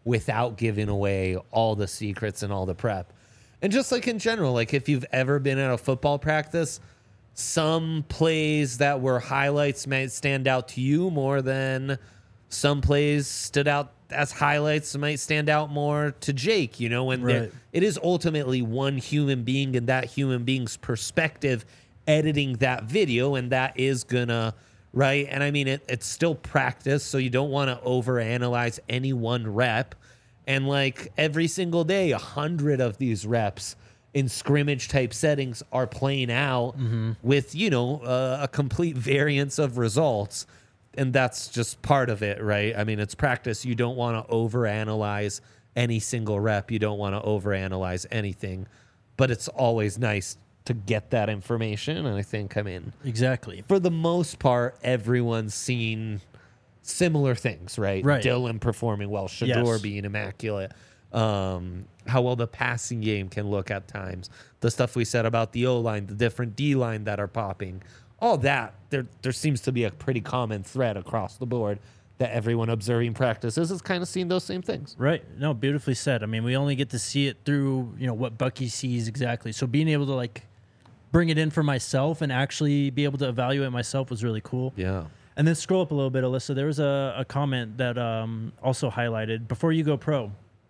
without giving away all the secrets and all the prep. And just like in general, like if you've ever been at a football practice, some plays that were highlights might stand out to you more than some plays stood out as highlights might stand out more to Jake, you know, and Right. it is ultimately one human being and that human being's perspective editing that video, and that is gonna, right? And I mean, it's still practice, so you don't want to overanalyze any one rep. And like every single day, 100 of these reps in scrimmage type settings are playing out with, you know, a complete variance of results. And that's just part of it, right? I mean, it's practice. You don't want to overanalyze any single rep. You don't want to overanalyze anything. But it's always nice to get that information. And I think, I mean, Exactly. for the most part, everyone's seen similar things, right? Right. Dylan performing well, Shador Yes. being immaculate, how well the passing game can look at times, the stuff we said about the O-line, the different D-line that are popping, all that. There seems to be a pretty common thread across the board that everyone observing practices is kind of seeing those same things. Right. No, beautifully said. I mean, we only get to see it through, you know, what Bucky sees exactly. So being able to like bring it in for myself and actually be able to evaluate myself was really cool. Yeah. And then scroll up a little bit, Alyssa. There was a comment that also highlighted before you go pro.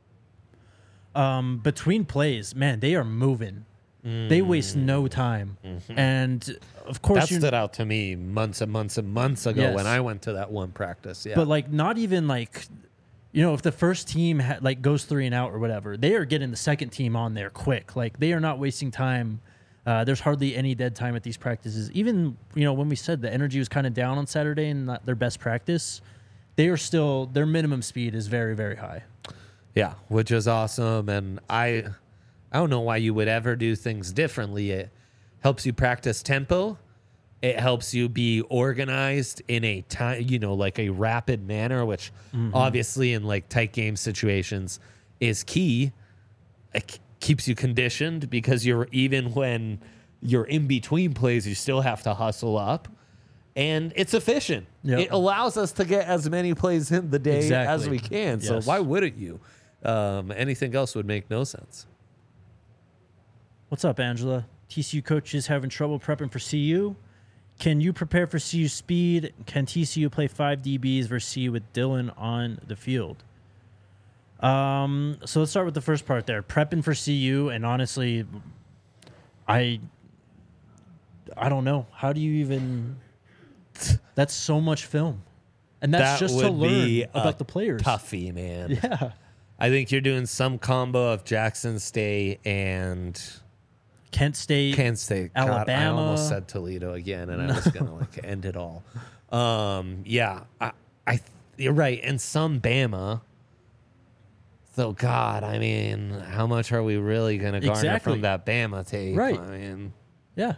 Between plays, man, they are moving. They waste no time. And of course, That stood out to me months and months and months ago Yes. when I went to that one practice. Yeah. but like not even like, you know, if the first team like goes 3 and out or whatever, they are getting the second team on there quick. Like they are not wasting time. There's hardly any dead time at these practices. Even, you know, when we said the energy was kind of down on Saturday and not their best practice, they are still, their minimum speed is very, very high. Yeah, which is awesome. And I don't know why you would ever do things differently. It helps you practice tempo. It helps you be organized in a time, you know, like a rapid manner, which obviously in like tight game situations is key. It keeps you conditioned because you're, even when you're in between plays, you still have to hustle up. And it's efficient. Yep. It allows us to get as many plays in the day Exactly. as we can. So Yes. why wouldn't you? Anything else would make no sense. What's up, Angela? TCU coaches having trouble prepping for CU. Can you prepare for CU speed? Can TCU play 5 DBs versus CU with Dylan on the field? So let's start with the first part there. Prepping for CU, and honestly, I don't know. How do you even... That's so much film. And that's That just to would learn be about the players. Toughie, man. Yeah. I think you're doing some combo of Jackson State and Kent State. Kent State. God, I Alabama. almost said Toledo again, and I was gonna like end it all. Yeah, you're right, and some Bama. So God, I mean, how much are we really gonna garner Exactly. from that Bama tape? Right. I mean, Yeah.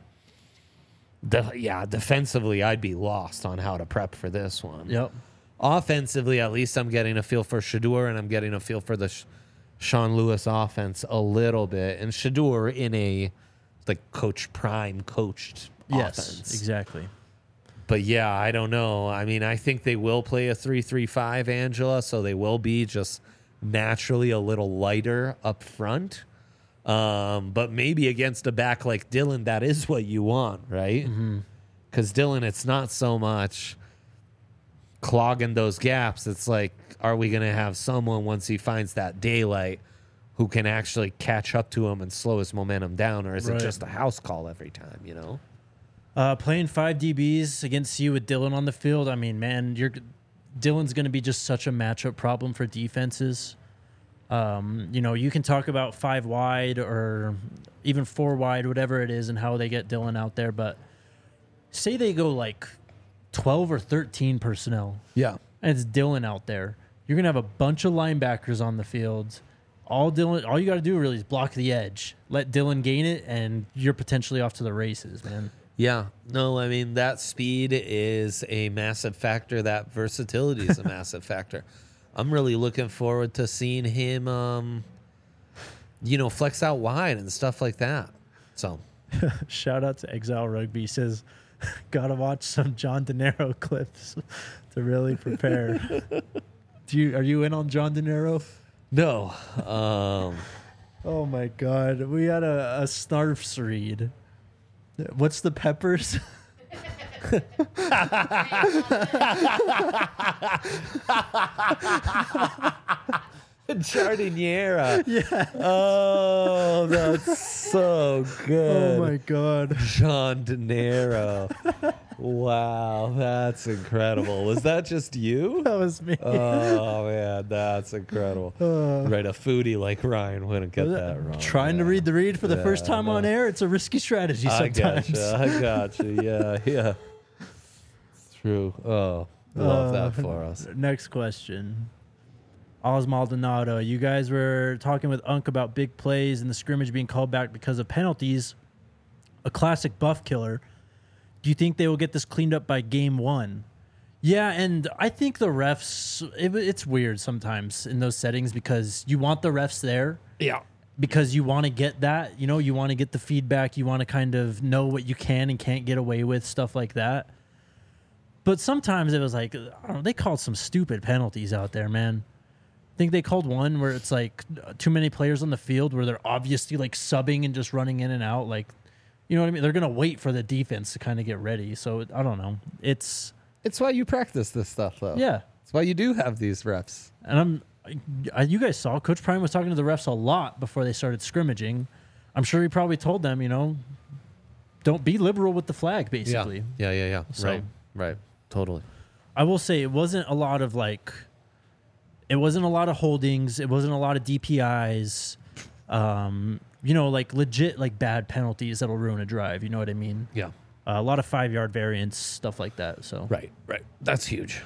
defensively, I'd be lost on how to prep for this one. Yep. Offensively, at least I'm getting a feel for Shador, and I'm getting a feel for the Sean Lewis offense a little bit. And Shador in a like Coach Prime coached Yes, offense. exactly. But yeah, I don't know. I mean, I think they will play a 3-3-5, Angela, so they will be just naturally a little lighter up front. But maybe against a back like Dylan, that is what you want, right? Because Dylan, it's not so much clogging those gaps. It's like, are we going to have someone once he finds that daylight who can actually catch up to him and slow his momentum down, or is Right. it just a house call every time, you know? Playing 5 DBs against you with Dylan on the field. I mean, man, Dylan's going to be just such a matchup problem for defenses. You know, you can talk about 5 wide or even 4 wide, whatever it is, and how they get Dylan out there. But say they go like 12 or 13 personnel, Yeah. and it's Dylan out there. You're going to have a bunch of linebackers on the field. All you got to do really is block the edge, let Dylan gain it, and you're potentially off to the races, man. Yeah. No, I mean, that speed is a massive factor. That versatility is a massive factor. I'm really looking forward to seeing him, you know, flex out wide and stuff like that. So, Shout out to Exile Rugby. He says, gotta watch some John De Niro clips to really prepare. Are you in on John De Niro? No. Oh my god, we had a snarfs read. What's the peppers? Jardiniera. Yeah. Oh, that's so good. Oh my god. John De Niro. Wow, that's incredible. Was that just you? That was me. Oh man, that's incredible. Right, a foodie like Ryan wouldn't get that wrong. Trying to read the read for the first time on air, it's a risky strategy sometimes. I gotcha. Yeah. It's true. Oh, love that for us. Next question. Oz Maldonado, you guys were talking with Unk about big plays and the scrimmage being called back because of penalties. A classic buff killer. Do you think they will get this cleaned up by game 1? Yeah, and I think the refs, it's weird sometimes in those settings because you want the refs there. Yeah. Because you want to get that, you want to get the feedback. You want to kind of know what you can and can't get away with, stuff like that. But sometimes it was like, I don't know, they called some stupid penalties out there, man. I think they called one where it's like too many players on the field where they're obviously like subbing and just running in and out. Like, you know what I mean? They're going to wait for the defense to kind of get ready. So I don't know. It's why you practice this stuff, though. Yeah. It's why you do have these refs. And you guys saw Coach Prime was talking to the refs a lot before they started scrimmaging. I'm sure he probably told them, don't be liberal with the flag, basically. Yeah. So- Right. Totally. I will say it wasn't a lot of holdings. It wasn't a lot of DPIs. Like legit, like bad penalties that'll ruin a drive. You know what I mean? Yeah. A lot of 5-yard variants, stuff like that. So Right. That's huge.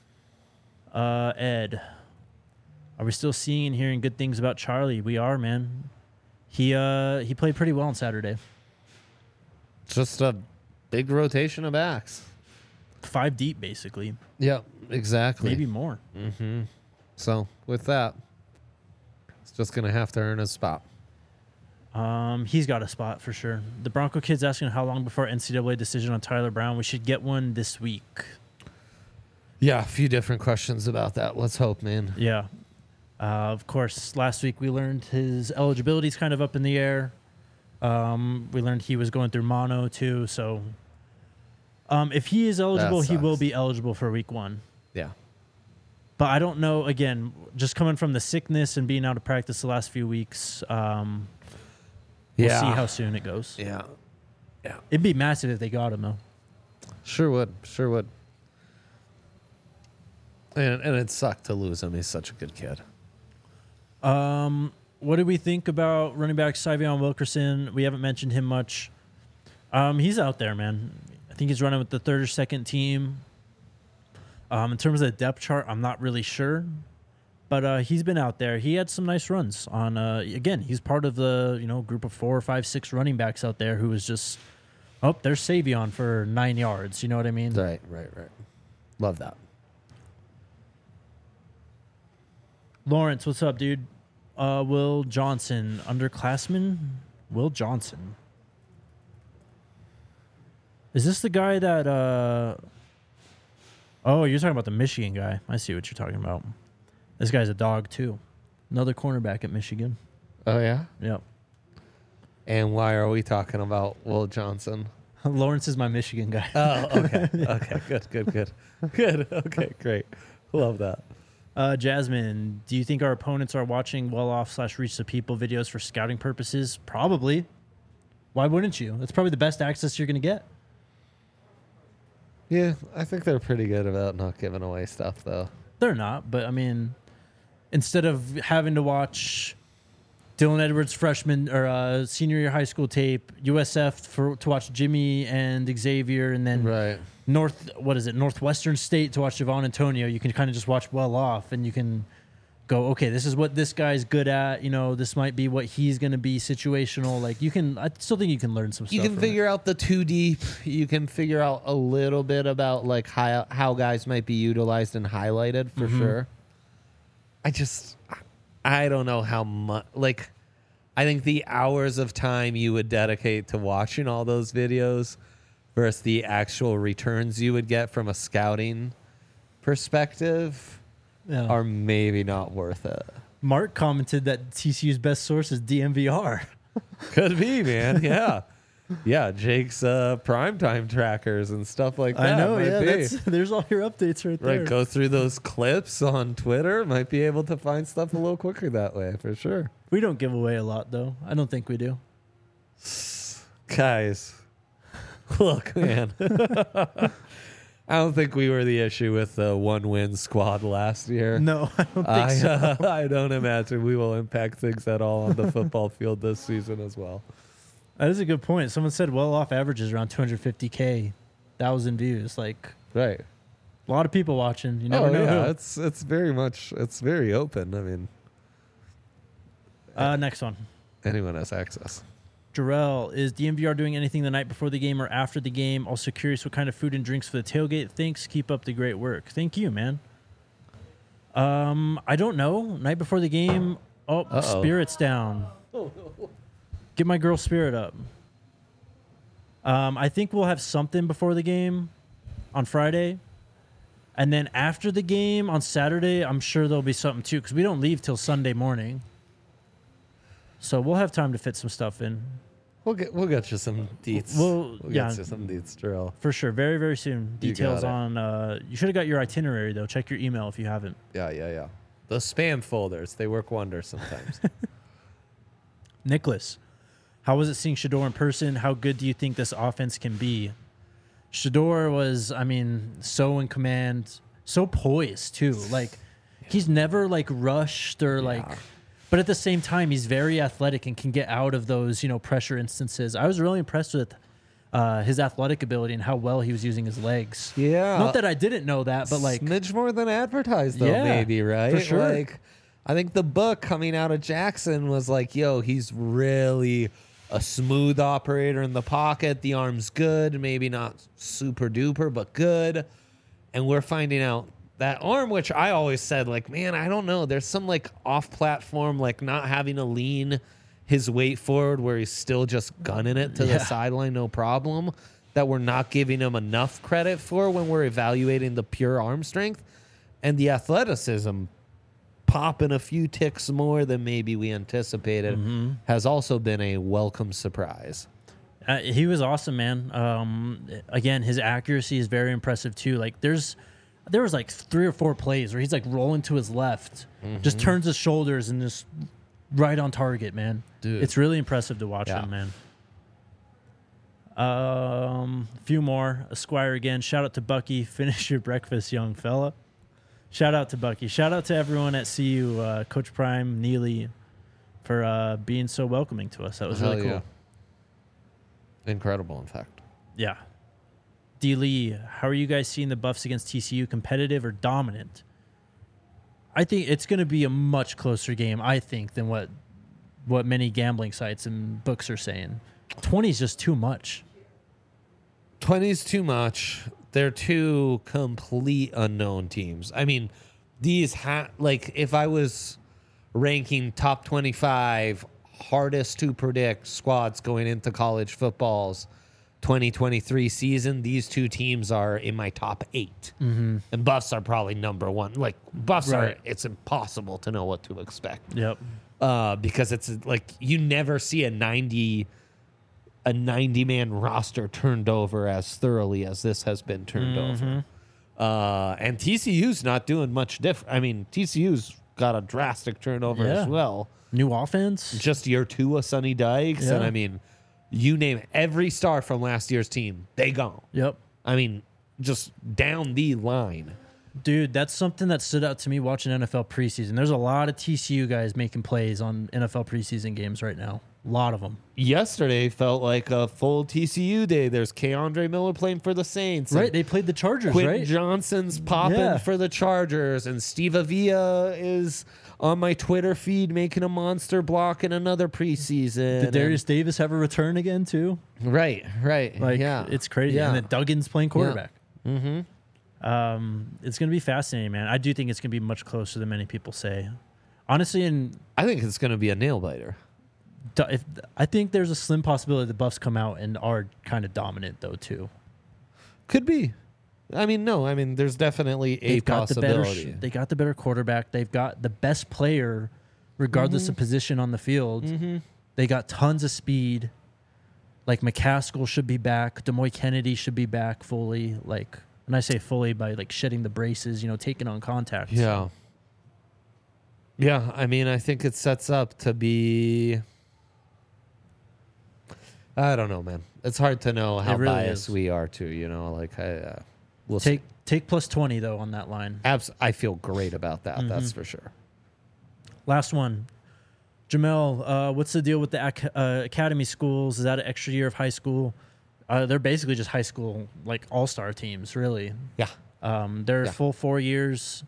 Ed, are we still seeing and hearing good things about Charlie? We are, man. He played pretty well on Saturday. Just a big rotation of backs. 5 deep, basically. Yeah, exactly. Maybe more. Mm-hmm. So with that, it's just gonna have to earn a spot. He's got a spot for sure. The Bronco kid's asking how long before NCAA decision on Tyler Brown. We should get one this week. Yeah, a few different questions about that. Let's hope, man. Yeah. Of course, last week we learned his eligibility is kind of up in the air. We learned he was going through mono too. So if he is eligible, he will be eligible for week 1. Yeah. But I don't know, again, just coming from the sickness and being out of practice the last few weeks, we'll see how soon it goes. Yeah. It'd be massive if they got him, though. Sure would. And it sucked to lose him. He's such a good kid. What do we think about running back Syvion Wilkerson? We haven't mentioned him much. He's out there, man. I think he's running with the 3rd or 2nd team. In terms of the depth chart, I'm not really sure. But he's been out there. He had some nice runs on, again, he's part of the, group of 4, 5, 6 running backs out there who was just, there's Savion for 9 yards. You know what I mean? Right. Love that. Lawrence, what's up, dude? Will Johnson, underclassman? Will Johnson. Is this the guy that, oh, you're talking about the Michigan guy. I see what you're talking about. This guy's a dog, too. Another cornerback at Michigan. Oh, yeah? Yep. And why are we talking about Will Johnson? Lawrence is my Michigan guy. Oh, okay. Okay, good. Good. Okay, great. Love that. Jasmine, do you think our opponents are watching well-off/reach the people videos for scouting purposes? Probably. Why wouldn't you? That's probably the best access you're going to get. Yeah, I think they're pretty good about not giving away stuff, though. They're not, but I mean, instead of having to watch Dylan Edwards freshman or senior year high school tape, USF to watch Jimmy and Xavier, and then Right. Northwestern State to watch Javon Antonio, you can kind of just watch well off, and you can go, okay, this is what this guy's good at. This might be what he's going to be situational. Like I still think you can learn some stuff. You can figure out the too deep. You can figure out a little bit about like how guys might be utilized and highlighted for sure. I don't know how much. Like, I think the hours of time you would dedicate to watching all those videos versus the actual returns you would get from a scouting perspective are maybe not worth it. Mark commented that TCU's best source is DMVR. Could be, man. Yeah. Yeah, Jake's primetime trackers and stuff like that. I know, might yeah. be. There's all your updates right there. Right, go through those clips on Twitter. Might be able to find stuff a little quicker that way, for sure. We don't give away a lot, though. I don't think we do. Guys, look, man. I don't think we were the issue with the one-win squad last year. No, I don't think so. I don't imagine we will impact things at all on the football field this season as well. That is a good point. Someone said well-off averages around 250K, 1,000 views. Like, Right. a lot of people watching. You never know yeah. who. It's very open. I mean, Next one. anyone has access. Jarrell, is DMVR doing anything the night before the game or after the game? Also curious what kind of food and drinks for the tailgate. Thanks. Keep up the great work. Thank you, man. I don't know. Night before the game. Oh, Uh-oh. Spirit's down. Get my girl Spirit up. I think we'll have something before the game on Friday. And then after the game on Saturday, I'm sure there'll be something too, because we don't leave till Sunday morning. So we'll have time to fit some stuff in. We'll get you some deets. We'll Get you some deets, Jarrell. For sure. Very, very soon. You Details got on... you should have got your itinerary, though. Check your email if you haven't. Yeah. Those spam folders, they work wonders sometimes. Nicholas, how was it seeing Shador in person? How good do you think this offense can be? Shador was, so in command, so poised, too. Like, he's never, rushed or, But at the same time, he's very athletic and can get out of those, pressure instances. I was really impressed with his athletic ability and how well he was using his legs. Yeah. Not that I didn't know that, but, smidge more than advertised, though, Yeah, maybe, right? for sure. I think the book coming out of Jackson was like, yo, he's really a smooth operator in the pocket. The arm's good, maybe not super duper, but good. And we're finding out that arm, which I always said, man, I don't know. There's some off platform, not having to lean his weight forward where he's still just gunning it to the sideline, no problem, that we're not giving him enough credit for when we're evaluating the pure arm strength. And the athleticism popping a few ticks more than maybe we anticipated has also been a welcome surprise. He was awesome, man. Again, his accuracy is very impressive, too. There was 3 or 4 plays where he's rolling to his left, just turns his shoulders and just right on target, man. Dude. It's really impressive to watch him, man. A few more. Esquire again. Shout out to Bucky. Finish your breakfast, young fella. Shout out to Bucky. Shout out to everyone at CU, Coach Prime, Neely, for being so welcoming to us. That was really cool. Yeah. Incredible, in fact. Yeah. D. Lee, how are you guys seeing the Buffs against TCU? Competitive or dominant? I think it's going to be a much closer game, than what many gambling sites and books are saying. 20 is just too much. 20 is too much. They're two complete unknown teams. These if I was ranking top 25 hardest to predict squads going into college football's 2023 season, these two teams are in my top 8. And Buffs are probably number 1. Buffs are, it's impossible to know what to expect. Yep. Because it's you never see a 90-man roster turned over as thoroughly as this has been turned over. And TCU's not doing much different. TCU's got a drastic turnover as well. New offense. Just year 2 of Sonny Dykes. Yeah. And you name every star from last year's team, they gone. Yep. Just down the line. Dude, that's something that stood out to me watching NFL preseason. There's a lot of TCU guys making plays on NFL preseason games right now. A lot of them. Yesterday felt like a full TCU day. There's Keandre Miller playing for the Saints. Right, they played the Chargers, Quentin right? Johnson's popping for the Chargers, and Steve Avila is on my Twitter feed making a monster block in another preseason. Did Darius Davis have a return again, too? Right. It's crazy. Yeah. And then Duggan's playing quarterback. Yeah. It's going to be fascinating, man. I do think it's going to be much closer than many people say. Honestly, and I think it's going to be a nail biter. I think there's a slim possibility the Buffs come out and are kind of dominant, though, too. Could be. There's definitely a possibility. They got the better quarterback. They've got the best player regardless of position on the field. They got tons of speed. Like McCaskill should be back. Demoy Kennedy should be back fully. Like, and I say fully by like shedding the braces, taking on contact. Yeah. Yeah, I mean, I think it sets up to be... I don't know, man. It's hard to know how really biased is. we are, too. Like, we'll Take see. take plus 20, though, on that line. I feel great about that. That's for sure. Last one. Jamel, what's the deal with the academy schools? Is that an extra year of high school? They're basically just high school, like all-star teams, really. Yeah. They're full 4 years.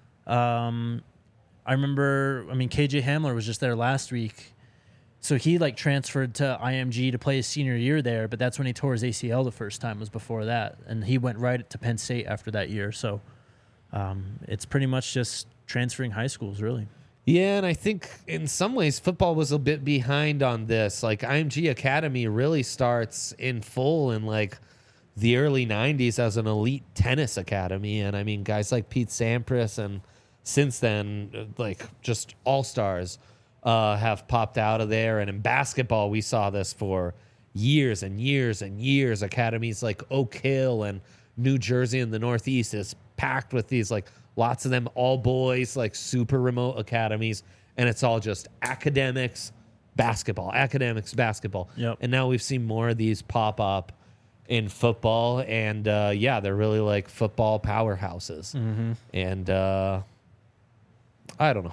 I remember, KJ Hamler was just there last week. So he like transferred to IMG to play his senior year there, but that's when he tore his ACL the first time, was before that. And he went right to Penn State after that year. So it's pretty much just transferring high schools, really. Yeah, and I think in some ways football was a bit behind on this. Like IMG Academy really starts in full in like the early 90s as an elite tennis academy. And I mean, guys like Pete Sampras and since then, like just all-stars have popped out of there. And in basketball, we saw this for years and years and years. Academies like Oak Hill and New Jersey in the Northeast is packed with these like lots of them all boys, like super remote academies. And it's all just academics, basketball. Yep. And now we've seen more of these pop up in football. And they're really like football powerhouses. And I don't know.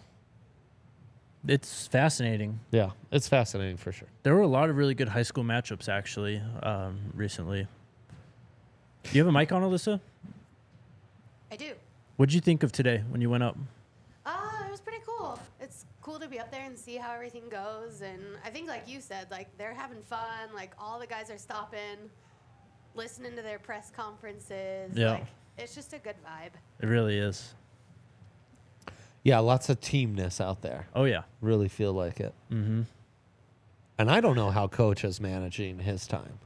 It's fascinating. Yeah, it's fascinating for sure. There were a lot of really good high school matchups, actually, recently. Do you have a mic on, Alyssa? I do. What'd you think of today when you went up? It was pretty cool. It's cool to be up there and see how everything goes. And I think, like you said, like they're having fun. Like all the guys are stopping, listening to their press conferences. Yeah. Like, it's just a good vibe. It really is. Yeah, lots of teamness out there. Oh, yeah. Really feel like it. Mm-hmm. And I don't know how Coach is managing his time.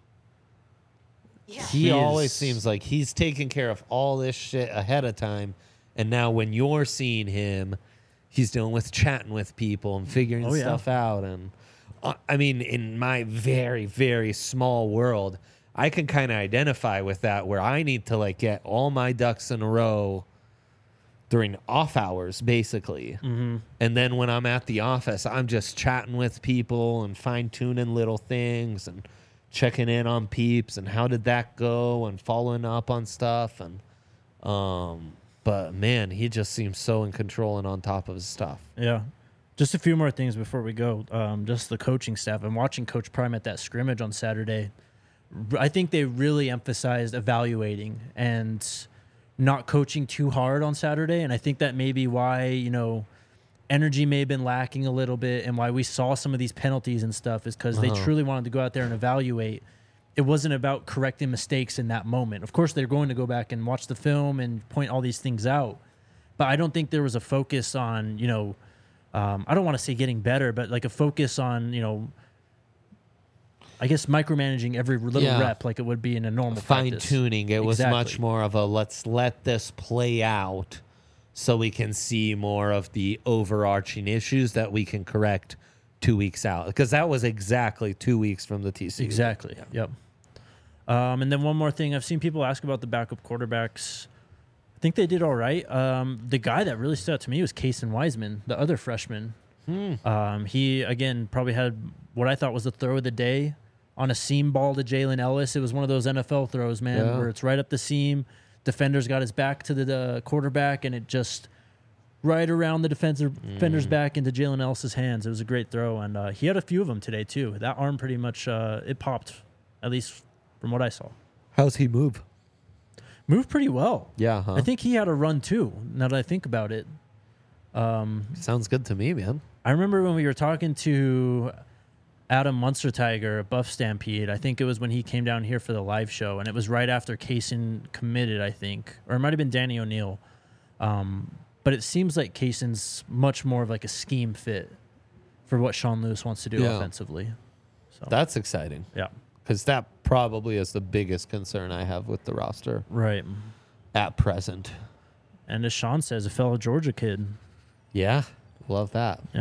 Yeah. He always seems like he's taking care of all this shit ahead of time. And now when you're seeing him, he's dealing with chatting with people and figuring stuff out. And I mean, in my very, very small world, I can kind of identify with that where I need to like get all my ducks in a row during off hours, basically. Mm-hmm. And then when I'm at the office, I'm just chatting with people and fine-tuning little things and checking in on peeps and how did that go and following up on stuff. And but, man, he just seems so in control and on top of his stuff. Yeah. Just a few more things before we go. Just the coaching staff. I'm watching Coach Prime at that scrimmage on Saturday. I think they really emphasized evaluating and not coaching too hard on Saturday. And I think that may be why, energy may have been lacking a little bit and why we saw some of these penalties and stuff is because they truly wanted to go out there and evaluate. It wasn't about correcting mistakes in that moment. Of course, they're going to go back and watch the film and point all these things out. But I don't think there was a focus on, I don't want to say getting better, but like a focus on, I guess micromanaging every little rep like it would be in a normal practice. Fine-tuning. It was Exactly. much more of a let's let this play out so we can see more of the overarching issues that we can correct 2 weeks out. Because that was exactly 2 weeks from the TCU. Exactly. Yeah. Yep. And then one more thing. I've seen people ask about the backup quarterbacks. I think they did all right. The guy that really stood out to me was Kason Wiseman, the other freshman. He, again, probably had what I thought was the throw of the day on a seam ball to Jalen Ellis. It was one of those NFL throws, man, where it's right up the seam. Defender's got his back to the quarterback, and it just right around the defender's back into Jalen Ellis's hands. It was a great throw, and he had a few of them today, too. That arm pretty much, it popped, at least from what I saw. How's he move? Moved pretty well. Yeah, huh? I think he had a run, too, now that I think about it. Sounds good to me, man. I remember when we were talking to Adam Munstertiger at Buff Stampede. I think it was when he came down here for the live show, and it was right after Kaysen committed, I think. Or it might have been Danny O'Neill. But it seems like Kayson's much more of like a scheme fit for what Sean Lewis wants to do offensively. So That's exciting. yeah. Because that probably is the biggest concern I have with the roster Right. at present. And as Sean says, a fellow Georgia kid. Yeah, love that. Yep.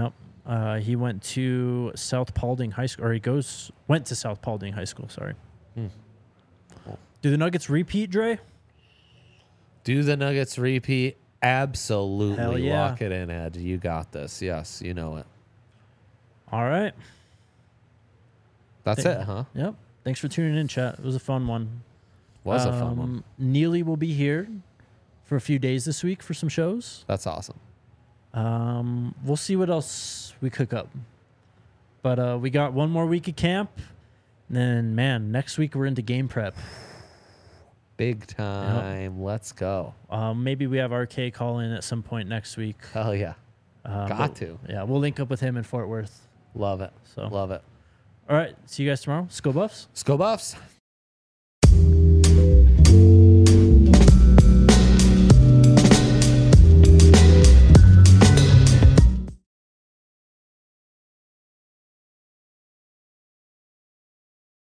He went to South Paulding High School, or went to South Paulding High School. Sorry. Cool. Do the Nuggets repeat, Dre? Do the Nuggets repeat? Absolutely. Hell yeah. Lock it in, Ed. You got this. Yes, you know it. All right. That's it, huh? Yep. Thanks for tuning in, chat. It was a fun one. Was a fun one. Neely will be here for a few days this week for some shows. That's awesome. We'll see what else we cook up. But we got one more week of camp. And then, man, next week we're into game prep. Big time. Let's go. Maybe we have RK call in at some point next week. Hell yeah. But, Got to. Yeah, we'll link up with him in Fort Worth. Love it. So. Love it. All right. See you guys tomorrow. Skull Buffs. Let's go Buffs.